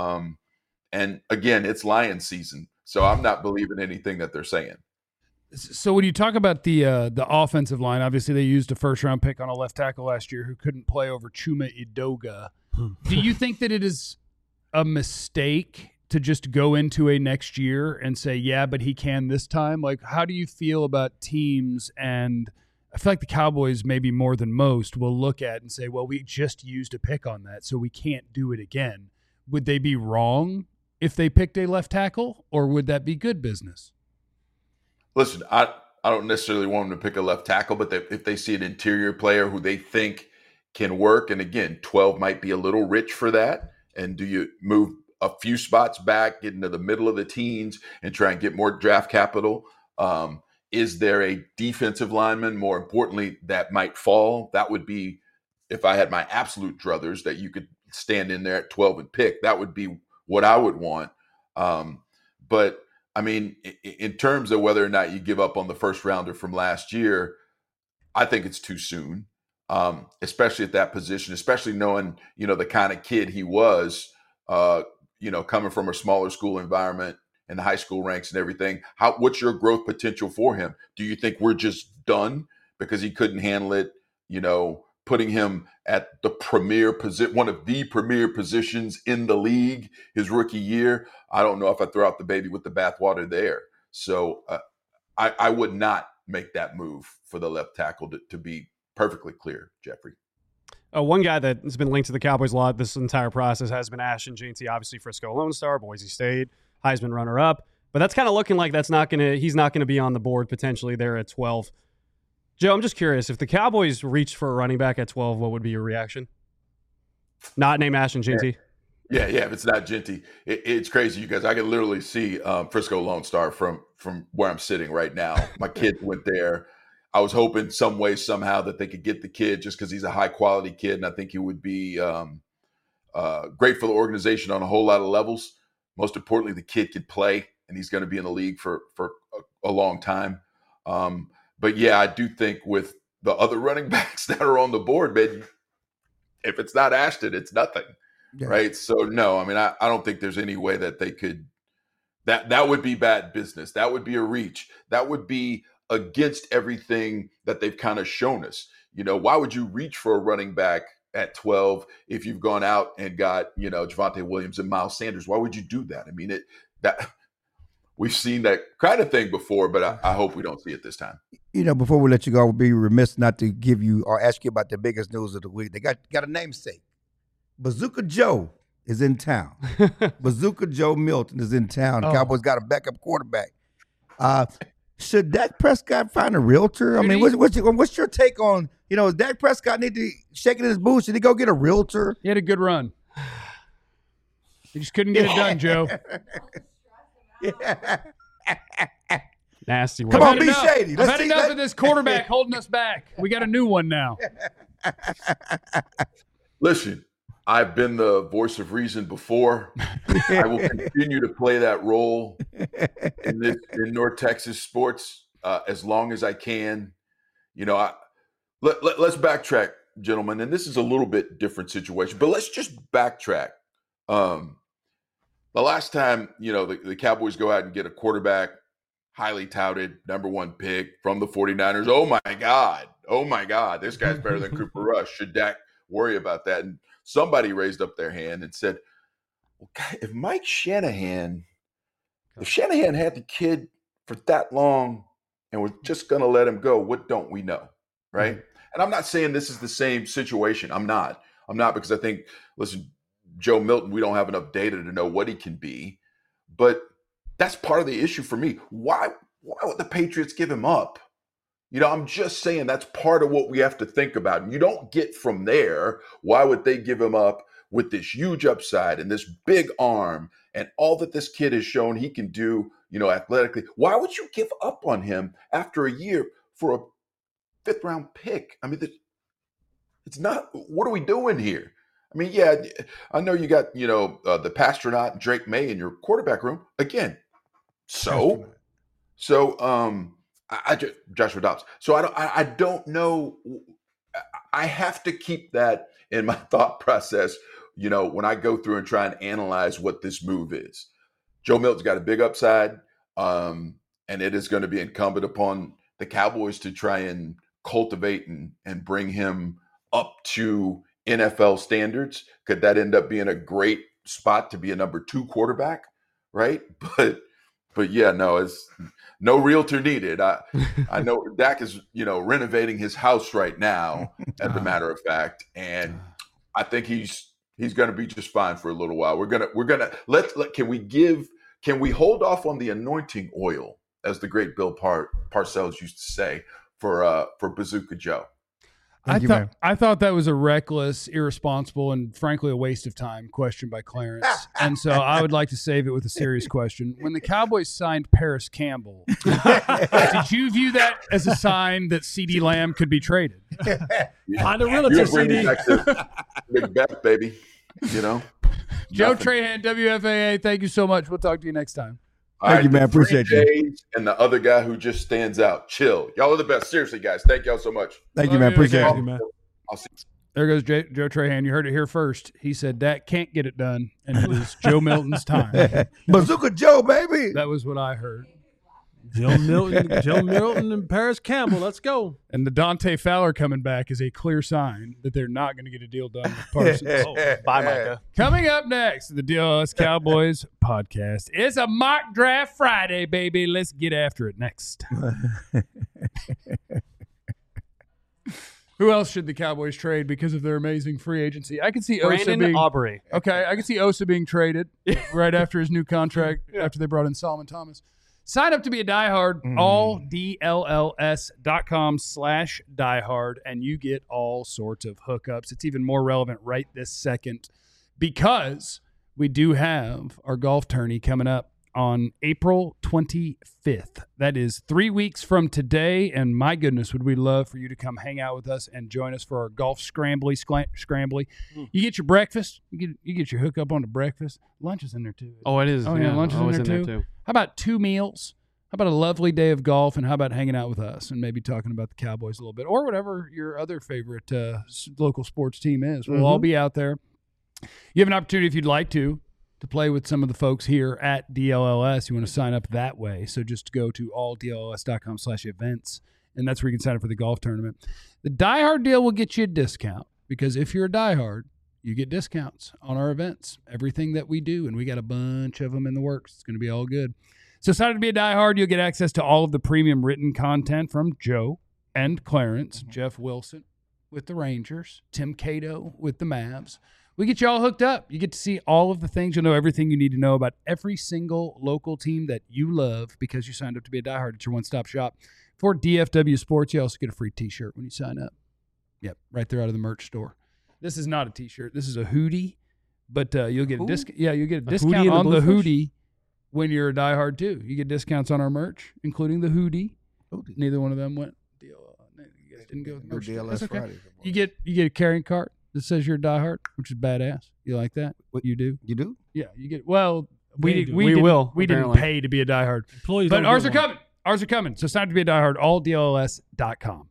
And again, it's Lions season, so I'm not believing anything that they're saying. So when you talk about the offensive line, obviously they used a first-round pick on a left tackle last year who couldn't play over Chuma Edoga. Do you think that it is a mistake to just go into a next year and say, yeah, but he can this time? Like, how do you feel about teams? And I feel like the Cowboys, maybe more than most, will look at and say, well, we just used a pick on that, so we can't do it again. Would they be wrong if they picked a left tackle, or would that be good business? Listen, I don't necessarily want them to pick a left tackle, but if they see an interior player who they think can work, and again, 12 might be a little rich for that, and do you move a few spots back, get into the middle of the teens, and try and get more draft capital? Is there a defensive lineman, more importantly, that might fall? That would be, if I had my absolute druthers, that you could stand in there at 12 and pick. That would be what I would want. But I mean, in terms of whether or not you give up on the first rounder from last year, I think it's too soon, especially at that position, especially knowing, the kind of kid he was, coming from a smaller school environment and the high school ranks and everything. What's your growth potential for him? Do you think we're just done because he couldn't handle it, putting him at the one of the premier positions in the league his rookie year? I don't know if I throw out the baby with the bathwater there. So I would not make that move for the left tackle, to be perfectly clear, Jeffrey. One guy that has been linked to the Cowboys a lot this entire process has been Ashton Jeanty, obviously Frisco Lone Star, Boise State, Heisman runner-up. But that's kind of looking like he's not going to be on the board potentially there at 12. Joe, I'm just curious, if the Cowboys reached for a running back at 12, what would be your reaction? Not named Ashton Jeanty? Yeah, if it's not Jeanty. It's crazy, you guys. I can literally see Frisco Lone Star from where I'm sitting right now. My kid went there. I was hoping some way, somehow, that they could get the kid just because he's a high-quality kid, and I think he would be great for the organization on a whole lot of levels. Most importantly, the kid could play, and he's going to be in the league for a long time. But, yeah, I do think with the other running backs that are on the board, man, if it's not Ashton, it's nothing, right? So, no, I mean, I don't think there's any way that they could – that would be bad business. That would be a reach. That would be against everything that they've kind of shown us. Why would you reach for a running back at 12 if you've gone out and got, Javonte Williams and Miles Sanders? Why would you do that? I mean, we've seen that kind of thing before, but I hope we don't see it this time. Before we let you go, I would be remiss not to give you or ask you about the biggest news of the week. They got a namesake. Bazooka Joe is in town. Bazooka Joe Milton is in town. Oh. Cowboys got a backup quarterback. Should Dak Prescott find a realtor? I mean, what's your take on, does Dak Prescott need to shake it in his boots? Should he go get a realtor? He had a good run. He just couldn't get it done, Joe. Nasty one. Come on, be shady. I've had enough of this quarterback holding us back. We got a new one now. Listen, I've been the voice of reason before. I will continue to play that role in North Texas sports as long as I can. Let's backtrack, gentlemen, and this is a little bit different situation, but let's just backtrack. The last time, the Cowboys go out and get a quarterback, highly touted, number one pick from the 49ers. Oh my God, this guy's better than Cooper Rush. Should Dak worry about that? And somebody raised up their hand and said, well, God, if Shanahan had the kid for that long and we're just going to let him go, what don't we know, right? Mm-hmm. And I'm not saying this is the same situation. I'm not because I think, listen, Joe Milton, we don't have enough data to know what he can be, but that's part of the issue for me. Why would the Patriots give him up? I'm just saying that's part of what we have to think about. And you don't get from there, why would they give him up with this huge upside and this big arm and all that this kid has shown he can do, athletically? Why would you give up on him after a year for a fifth-round pick? I mean, it's not – what are we doing here? I mean, yeah, I know you got, the Pasternaut and Drake May in your quarterback room. Again, Joshua Dobbs. So I don't know. I have to keep that in my thought process, when I go through and try and analyze what this move is. Joe Milton's got a big upside, and it is going to be incumbent upon the Cowboys to try and cultivate and bring him up to NFL standards. Could that end up being a great spot to be a number 2 quarterback, right? But yeah, no, it's no realtor needed. I know Dak is, renovating his house right now, as a matter of fact. And I think he's He's going to be just fine for a little while. We're gonna can we hold off on the anointing oil, as the great Bill Parcells used to say, for Bazooka Joe? I thought that was a reckless, irresponsible, and frankly a waste of time question by Clarence. And so I would like to save it with a serious question. When the Cowboys signed Paris Campbell, did you view that as a sign that CeeDee Lamb could be traded? Find a realtor, CD. Big bet, baby. You know? Joe Trahan, WFAA, thank you so much. We'll talk to you next time. Thank you, man. Appreciate you. And the other guy who just stands out, Chill. Y'all are the best. Seriously, guys. Thank y'all so much. Thank you, man. Appreciate you, man. I'll see you. There goes Joe Trahan. You heard it here first. He said Dak can't get it done, and it is Joe Milton's time. Bazooka Joe, baby. That was what I heard. Joe Milton and Paris Campbell. Let's go. And the Dante Fowler coming back is a clear sign that they're not going to get a deal done with Parsons. Bye, Micah. Coming up next, the DLS Cowboys podcast. It's a mock draft Friday, baby. Let's get after it next. Who else should the Cowboys trade because of their amazing free agency? I can see Brandon Aubrey. Okay, I can see Osa being traded right after his new contract after they brought in Solomon Thomas. Sign up to be a diehard, alldlls.com/diehard, and you get all sorts of hookups. It's even more relevant right this second because we do have our golf tourney coming up on April 25th. That is 3 weeks from today, and my goodness, would we love for you to come hang out with us and join us for our golf scrambly. You get your breakfast. You get your hookup on the breakfast. Lunch is in there, too. Oh, it is. Oh, yeah, lunch is in there, too. How about 2 meals? How about a lovely day of golf, and how about hanging out with us and maybe talking about the Cowboys a little bit or whatever your other favorite local sports team is. We'll all be out there. You have an opportunity, if you'd like to play with some of the folks here at DLLS. You want to sign up that way. So just go to alldlls.com/events, and that's where you can sign up for the golf tournament. The diehard deal will get you a discount because if you're a diehard, you get discounts on our events, everything that we do, and we got a bunch of them in the works. It's going to be all good. So sign up to be a diehard. You'll get access to all of the premium written content from Joe and Clarence, Jeff Wilson with the Rangers, Tim Cato with the Mavs. We get you all hooked up. You get to see all of the things. You'll know everything you need to know about every single local team that you love because you signed up to be a diehard. It's your one-stop shop. For DFW Sports, you also get a free T-shirt when you sign up. Yep, right there out of the merch store. This is not a T-shirt. This is a hoodie, but you'll get a discount. Yeah, you get a discount on the hoodie when you're a diehard too. You get discounts on our merch, including the hoodie. Neither one of them went. You guys didn't go with merch. That's okay. Friday. You get a carrying cart that says you're a diehard, which is badass. You like that? What you do? You do? Yeah, you get. Well, we didn't pay to be a diehard, employees, but ours are coming. Ours are coming. So sign up to be a diehard. alldlls.com.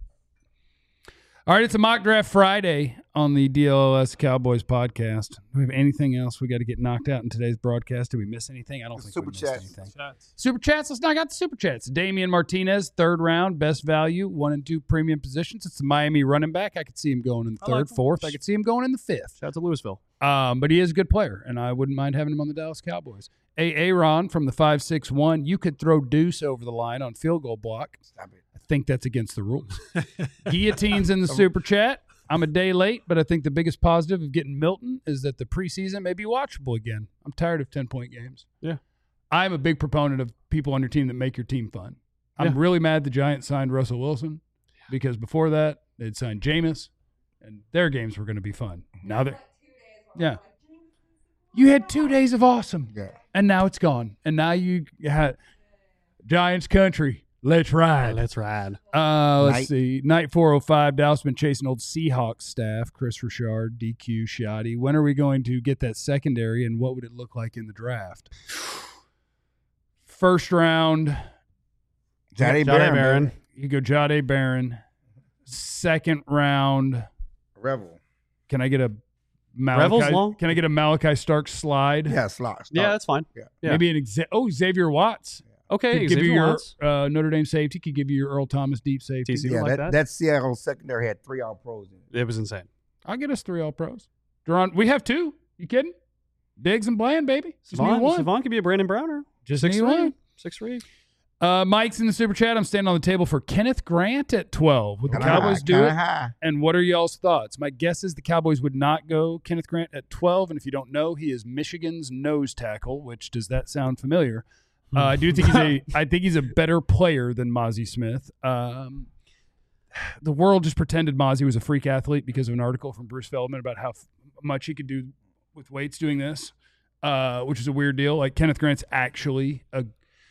All right, it's a mock draft Friday on the DLLS Cowboys podcast. Do we have anything else we got to get knocked out in today's broadcast? Did we miss anything? I don't think we missed anything. Super chats. Let's knock out the super chats. Damian Martinez, 3rd round, best value, 1 and 2 premium positions. It's the Miami running back. I could see him going in the 3rd, 4th. I could see him going in the 5th. Shout out to Louisville. But he is a good player, and I wouldn't mind having him on the Dallas Cowboys. Aaron from the 561. You could throw Deuce over the line on field goal block. Stop it. I think that's against the rules. Guillotine's in the super chat. I'm a day late, but I think the biggest positive of getting Milton is that the preseason may be watchable again. I'm tired of 10-point games. Yeah. I'm a big proponent of people on your team that make your team fun. I'm really mad the Giants signed Russell Wilson because before that, they'd signed Jameis, and their games were going to be fun. Now they're – yeah. You had 2 days of awesome, and now it's gone. And now you had Giants country. Let's ride. Let's ride. Let's see. Night 405. Dallas been chasing old Seahawks staff. Chris Richard, DQ, Shoddy. When are we going to get that secondary, and what would it look like in the draft? 1st round. Jahdae Barron. You go Jahdae Barron. 2nd round. Revel. Can I get a Malachi? Can I get a Malachi Starks slide? Yeah, slot. Yeah, that's fine. Yeah. Maybe Xavier Watts. Okay, could give you your Notre Dame safety. Could give you your Earl Thomas deep safety. Yeah, like that. That Seattle secondary had 3 All-Pros in it. It was insane. I'll get us 3 All-Pros. Duron, we have 2. You kidding? Diggs and Bland, baby. Savon could be a Brandon Browner. Just 6'3". 6'3". Mike's in the super chat. I'm standing on the table for Kenneth Grant at 12. Would the Cowboys do it? High. And what are y'all's thoughts? My guess is the Cowboys would not go Kenneth Grant at 12. And if you don't know, he is Michigan's nose tackle. Which, does that sound familiar? I do think I think he's a better player than Mozzie Smith. The world just pretended Mozzie was a freak athlete because of an article from Bruce Feldman about how much he could do with weights doing this, which is a weird deal. Like, Kenneth Grant's actually a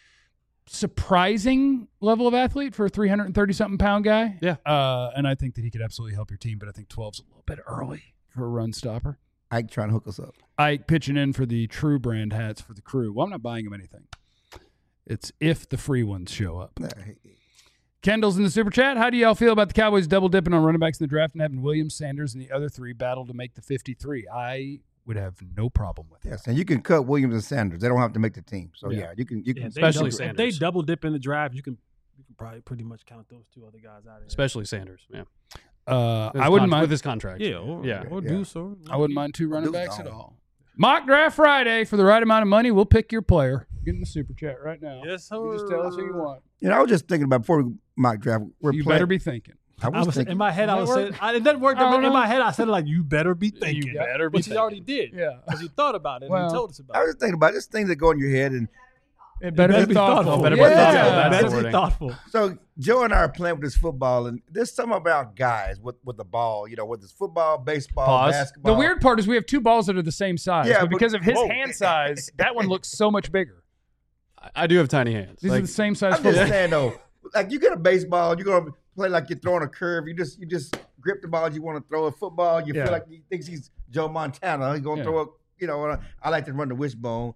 surprising level of athlete for a 330-something pound guy. Yeah. And I think that he could absolutely help your team, but I think 12's a little bit early for a run stopper. Ike trying to hook us up. Ike pitching in for the True brand hats for the crew. Well, I'm not buying him anything. It's if the free ones show up. Kendall's in the super chat. How do y'all feel about the Cowboys double dipping on running backs in the draft and having Williams, Sanders, and the other three battle to make the 53? I would have no problem with it. Yes, and you can cut Williams and Sanders. They don't have to make the team. So you can especially Sanders. If they double dip in the draft, you can probably pretty much count those two other guys out of there. Especially Sanders. Yeah. I wouldn't mind with his contract. Yeah, or Deuce, or I wouldn't mind two running backs at all. Mock Draft Friday. For the right amount of money, we'll pick your player. Get in the super chat right now. Yes, sir. You just tell us who you want. I was just thinking about before we mock draft. You better be thinking. I was thinking. In my head, I was saying, it doesn't work. In my head, I said it like, you better be thinking. You better be Which thinking. he already did. Yeah. Because he thought about it and he told us about I it. was just thinking about this thing that go in your head, and It better be thoughtful. Better be Yeah. thoughtful. That's the Better be wording. thoughtful. so Joe and I are playing with this football, and there's something about guys with the ball. whether it's football, baseball, Pause. basketball. The weird part is we have two balls that are the same size. Yeah, but because of his whoa. hand size, that one looks so much bigger. I do have tiny hands. These are the same size I'm just football. saying though, like you get a baseball, you're gonna play like you're throwing a curve. You just grip the ball you want to throw. A football, you Yeah. feel like he thinks he's Joe Montana. He's gonna Yeah. throw a. I like to run the wishbone.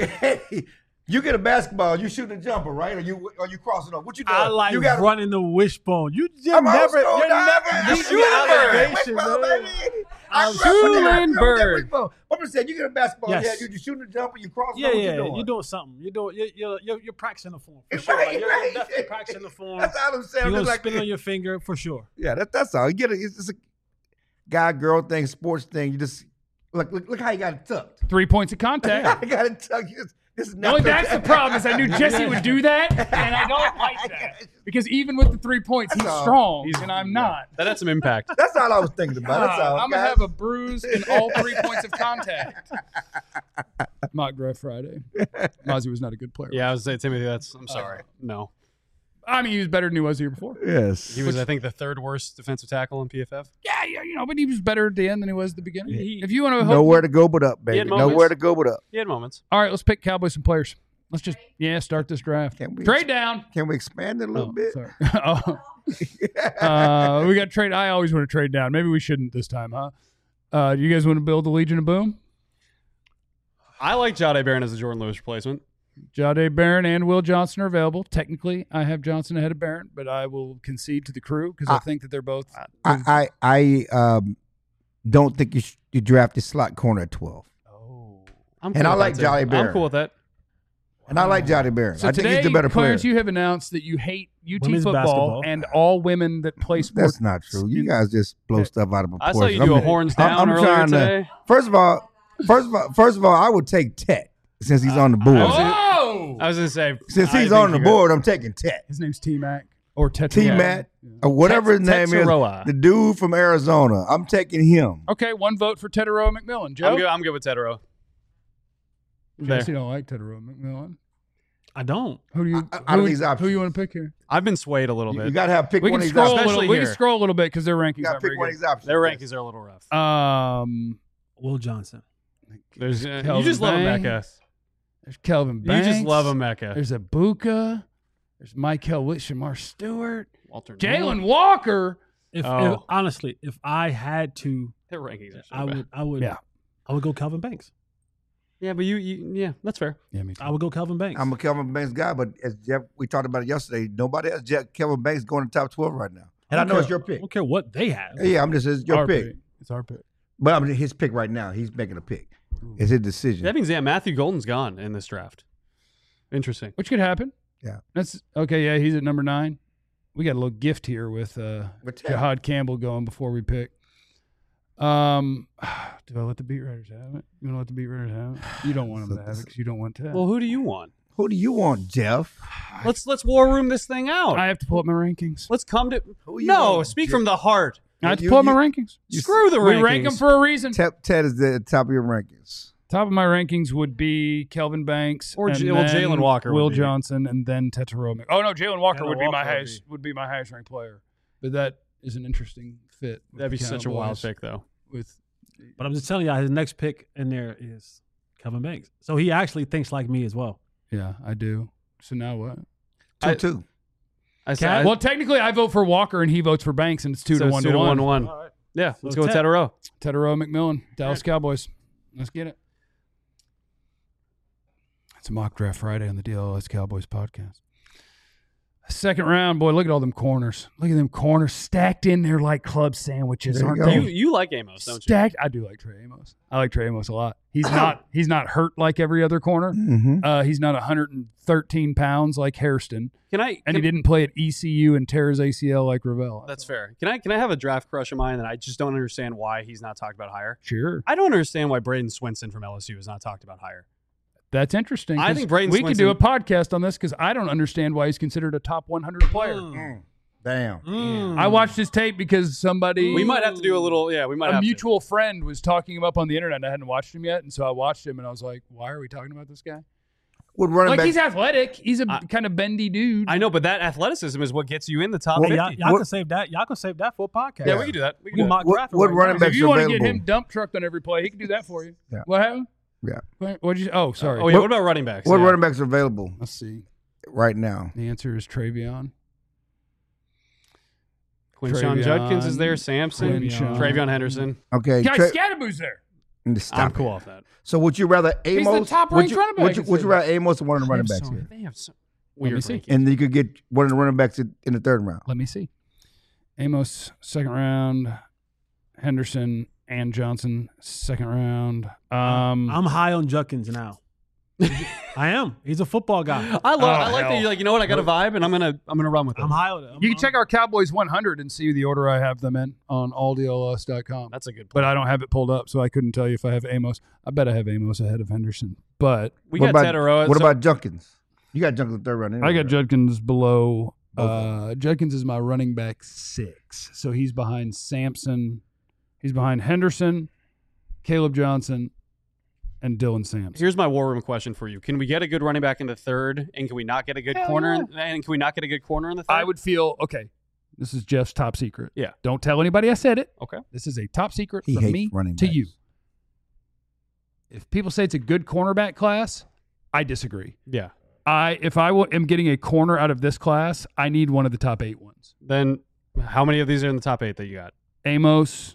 You get a basketball, you shoot a jumper, right? Or you crossing up. What you doing? I like you got running the wishbone. You just I'm never, old school, you're dog. never, You you shoot a bird. elevation, Wishbone, man. baby. I'm Schulenberg. I'm just saying, you get a basketball, Yes. you shooting a jumper, you crossing Yeah, up. What yeah, you doing? you're doing something. You're practicing the form for It's sure. right, Like, you're right. definitely practicing the form. That's all I'm saying. You're I'm gonna just spin it on your finger for sure. Yeah, that's all. You get it. It's just a guy girl thing, sports thing. You just look how you got it tucked. 3 points of contact. I got it tucked. This is No, not that's the problem. Is I knew Jesse would do that, and I don't like that because even with the 3 points, he's That's all. strong, and I'm not. That had some impact. That's all I was thinking about. That's all. I'm gonna guys. have a bruise in all 3 points of contact. Mock Draft Friday. Mozzie was not a good player. Yeah, I was saying, Timothy, I'm sorry. No. I mean, he was better than he was the year before. Yes. He was, I think, the third worst defensive tackle in PFF. Yeah, but he was better at the end than he was at the beginning. If you want to Nowhere to go but up, He baby. had moments. Nowhere to go but up. He had moments. All right, let's pick Cowboys some players. Let's just start this draft. Can we- Trade down. Can we expand it a little bit? Sorry. We got to trade. I always want to trade down. Maybe we shouldn't this time, huh? Do you guys want to build the Legion of Boom? I like Jahdae Barron as a Jordan Lewis replacement. Jahdae Barron and Will Johnson are available. Technically, I have Johnson ahead of Barron, but I will concede to the crew because I think that they're both. I don't think you draft a slot corner at 12. I'm And I with like that, too. Jahdae Barron. I'm cool with that. And I like Jahdae Barron. So I think today, he's the better player. Clarence, you have announced that you hate UT Women's football basketball. and all women that play sports. That's not true. You guys just blow stuff out of I proportion. saw you do a horns down earlier today. First of all, I would take Tet since he's on the board. Oh! I was going to say. Since I he's think on the you board, I'm taking Tet. His name's T-Mac or Tetra. T-Matt, or whatever his name Tetsuroa. is, the dude from Arizona. I'm taking him. Okay, one vote for Teteroa McMillan. Joe? I'm good with Tetero. Jesse don't like Teteroa McMillan. I don't. Who do you? Out of these options. Who you want to pick here? I've been swayed a little You bit. got to have pick We one can of these scroll a options. little. Especially We can here. scroll a little bit because their rankings You got aren't to very pick one of good. these options. Their rankings are a little rough. Will Johnson. There's you Kelvin just love Bang. Emeka. There's Kelvin You Banks. just love Emeka. There's Ibuka. There's Michael Shamar Stewart. Walter Jalen Walker. If Oh. honestly, if I had to, Their rankings are so I bad. would, Yeah. I would go Kelvin Banks. Yeah, but yeah, that's fair. Yeah, me too. I would go Kelvin Banks. I'm a Kelvin Banks guy, but as Jeff, we talked about it yesterday. Nobody has Kelvin Banks going to top 12 right now. And I know it's your I pick. don't care what they have. Yeah, it's your Our pick. It's our pick. But I mean, his pick right now. He's making a pick. It's his decision. That means Matthew Golden's gone in this draft. Interesting. Which could happen. Yeah. That's okay. Yeah, he's at number 9. We got a little gift here with Jahad Campbell going before we pick. Do I let the beat writers have it? You want to let the beat writers have it? You don't want them to have it because you don't want to. Well, who do you want? Who do you want, Jeff? Let's war room this thing out. I have to pull up my rankings. Let's come to Who you no. want, Speak Jeff? from the heart. I have to pull up my rankings. Screw the rankings. We rank them for a reason. Ted is the top of your rankings. Top of my rankings would be Kelvin Banks Or and Jalen then Walker would Will be. Johnson, and then Tetairoa. Oh no, Jalen Walker Jalen would be my Walker highest ranked player. But that is an interesting fit. with That'd be the such a wild Cowboys pick, though. With But I'm just telling you, his next pick in there is Kelvin Banks. So he actually thinks like me as well. yeah, I do. So now what? 2-2. I said, Well, technically, I vote for Walker and he votes for Banks, and it's 2 to 1 to 1. 1. All right. Yeah, So let's go with Ted. Tetairoa. Tetairoa McMillan, Dallas Cowboys. Let's get it. It's a mock draft Friday on the DLS Cowboys podcast. Second round, boy, look at all them corners. Look at them corners stacked in there like club sandwiches, There you aren't go. they? You like Amos, don't you? Stacked. I do like Trey Amos. I like Trey Amos a lot. He's not hurt like every other corner. Mm-hmm. He's not 113 pounds like Hairston, Can I? and he didn't play at ECU and tear his ACL like Ravel. That's fair. Can I have a draft crush of mine that I just don't understand why he's not talked about higher? Sure. I don't understand why Braden Swinson from LSU is not talked about higher. That's interesting. I 'cause think Braden we could do a Swinson- podcast on this because I don't understand why he's considered a top 100 player. Damn. I watched his tape because somebody, We might have to do a little. Yeah, we might a have mutual friend was talking him up on the internet. And I hadn't watched him yet, and so I watched him, and I was like, "Why are we talking about this guy? Would running Like back he's athletic. He's a kind of bendy dude. to. I know, but that athleticism is what gets you in the top Well, 50. Y'all can save that. Y'all can save that for a podcast. Yeah, we can do that. We can We do that. mock what, draft what right running now. backs if you want to available? get him dump trucked on every play, he can do that for you. Yeah. What happened? Yeah. What did you? Oh, sorry. Oh, yeah. What about running backs? What Yeah. running backs are available Let's see. right now? The answer is Travion. Quinshawn Travion, Judkins is there. Sampson. Quinshawn. Travion Henderson. Okay. Guy Scadaboo's there. Stop I'm it. cool off that. So would you rather He's the Amos? top-ranked running back Would in you rather Amos or one of the running They have backs so- here? They have so Let me weird see. rankings. And you could get one of the running backs in the third round. Let me see. Amos, second round. Henderson and Johnson, second round. I'm high on Judkins now. I am. He's a football guy. I like hell. that you're like, you know what? I got a vibe, and I'm gonna run with it. I'm high on it. You can check our Cowboys 100 and see the order I have them in on alldls.com. That's a good But point. I don't have it pulled up, so I couldn't tell you if I have Amos. I bet I have Amos ahead of Henderson. But We What got about- Tetairoa. What so- about Junkins? You got Junkins in the third round. Anyway, I got right? Judkins below. Okay. Judkins is my running back 6. So he's behind Sampson. He's behind Henderson, Caleb Johnson, and Dylan Sampson. Here's my war room question for you: can we get a good running back in the third, and can we not get a good corner? And can we not get a good corner in the third? I would feel, okay, this is Jeff's top secret. Yeah. Don't tell anybody I said it. Okay. This is a top secret He from hates me running to backs. you. If people say it's a good cornerback class, I disagree. Yeah. If I am getting a corner out of this class, I need one of the top 8 ones. Then how many of these are in the top 8 that you got? Amos,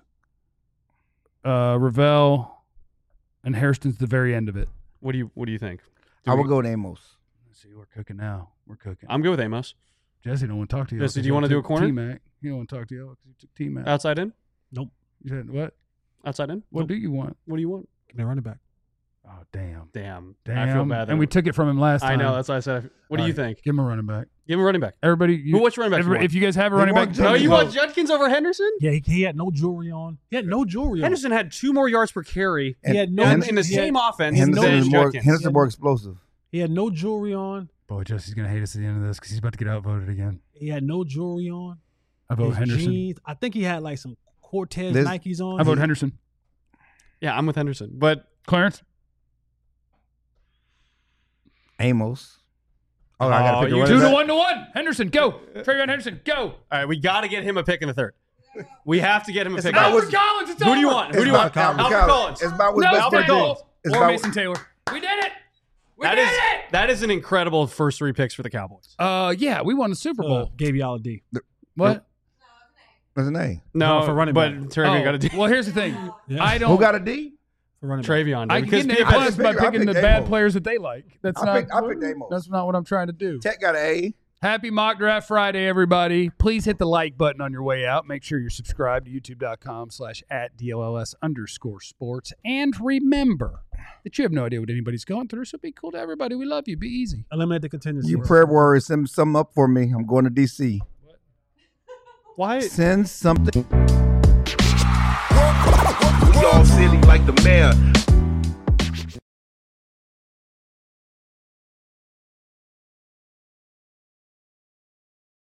Ravel, and Hairston's the very end of it. What do you think? I would go with Amos. Let's see, we're cooking now. We're cooking. I'm good with Amos. Jesse don't want to talk to you. Jesse, do you wanna do a corner? T-Mac. You don't want to talk to you because you took T-Mac. Outside in? You said what? Outside in? What do you want? What do you want? Give me a running back. Oh, damn. Damn. Damn. I feel bad. And we took it from him last time. I know. That's why I said. What do All you right, think? Give him a running back. Give him a running back. Everybody, Which running back? if you guys have a They running back, want tell No, Judkins. you me. want Judkins over Henderson? Yeah, he had no jewelry on. He had no jewelry on. Henderson had 2 more yards per carry He had no- in the he had- same offense Henderson than is more, Judkins. Henderson more explosive. He had no jewelry on. Boy, Jesse's going to hate us at the end of this because he's about to get outvoted again. He had no jewelry on. I vote His Henderson. jeans. I think he had like some Cortez This- Nikes on. I vote Henderson. Yeah, I'm with Henderson. But Clarence? Amos. Oh, I got to pick a you- running 2 to back. 1 to 1. Henderson, go. Travion Henderson, go. all right, we got to get him a pick in the third. We have to get him a It's pick. about in the what's- third. Albert Collins, it's Who over. do you want? Who It's do you want? about Albert Collins. It's about what's No best for the Staples team. It's or about- Mason Taylor. We did it. We That did is it. that is an incredible first 3 picks for the Cowboys. Yeah, we won the Super Bowl. Gave y'all a D. What? That's an A. No, for running but back. Travion got a D. Well, here's the thing. Yeah. I don't. Who got a D? For running back. Travion. I did, can get an A I plus by picked- I picking the picked bad Amos. players that they like. That's I not. picked Amos. That's not what I'm trying to do. Tech got an A. Happy Mock Draft Friday, everybody. Please hit the like button on your way out. Make sure you're subscribed to youtube.com/@DLLS_sports. And remember that you have no idea what anybody's going through, so be cool to everybody. We love you. Be easy. Eliminate the contingency. You prayer warriors, send something up for me. I'm going to DC. Why? Send something. We all silly like the mayor.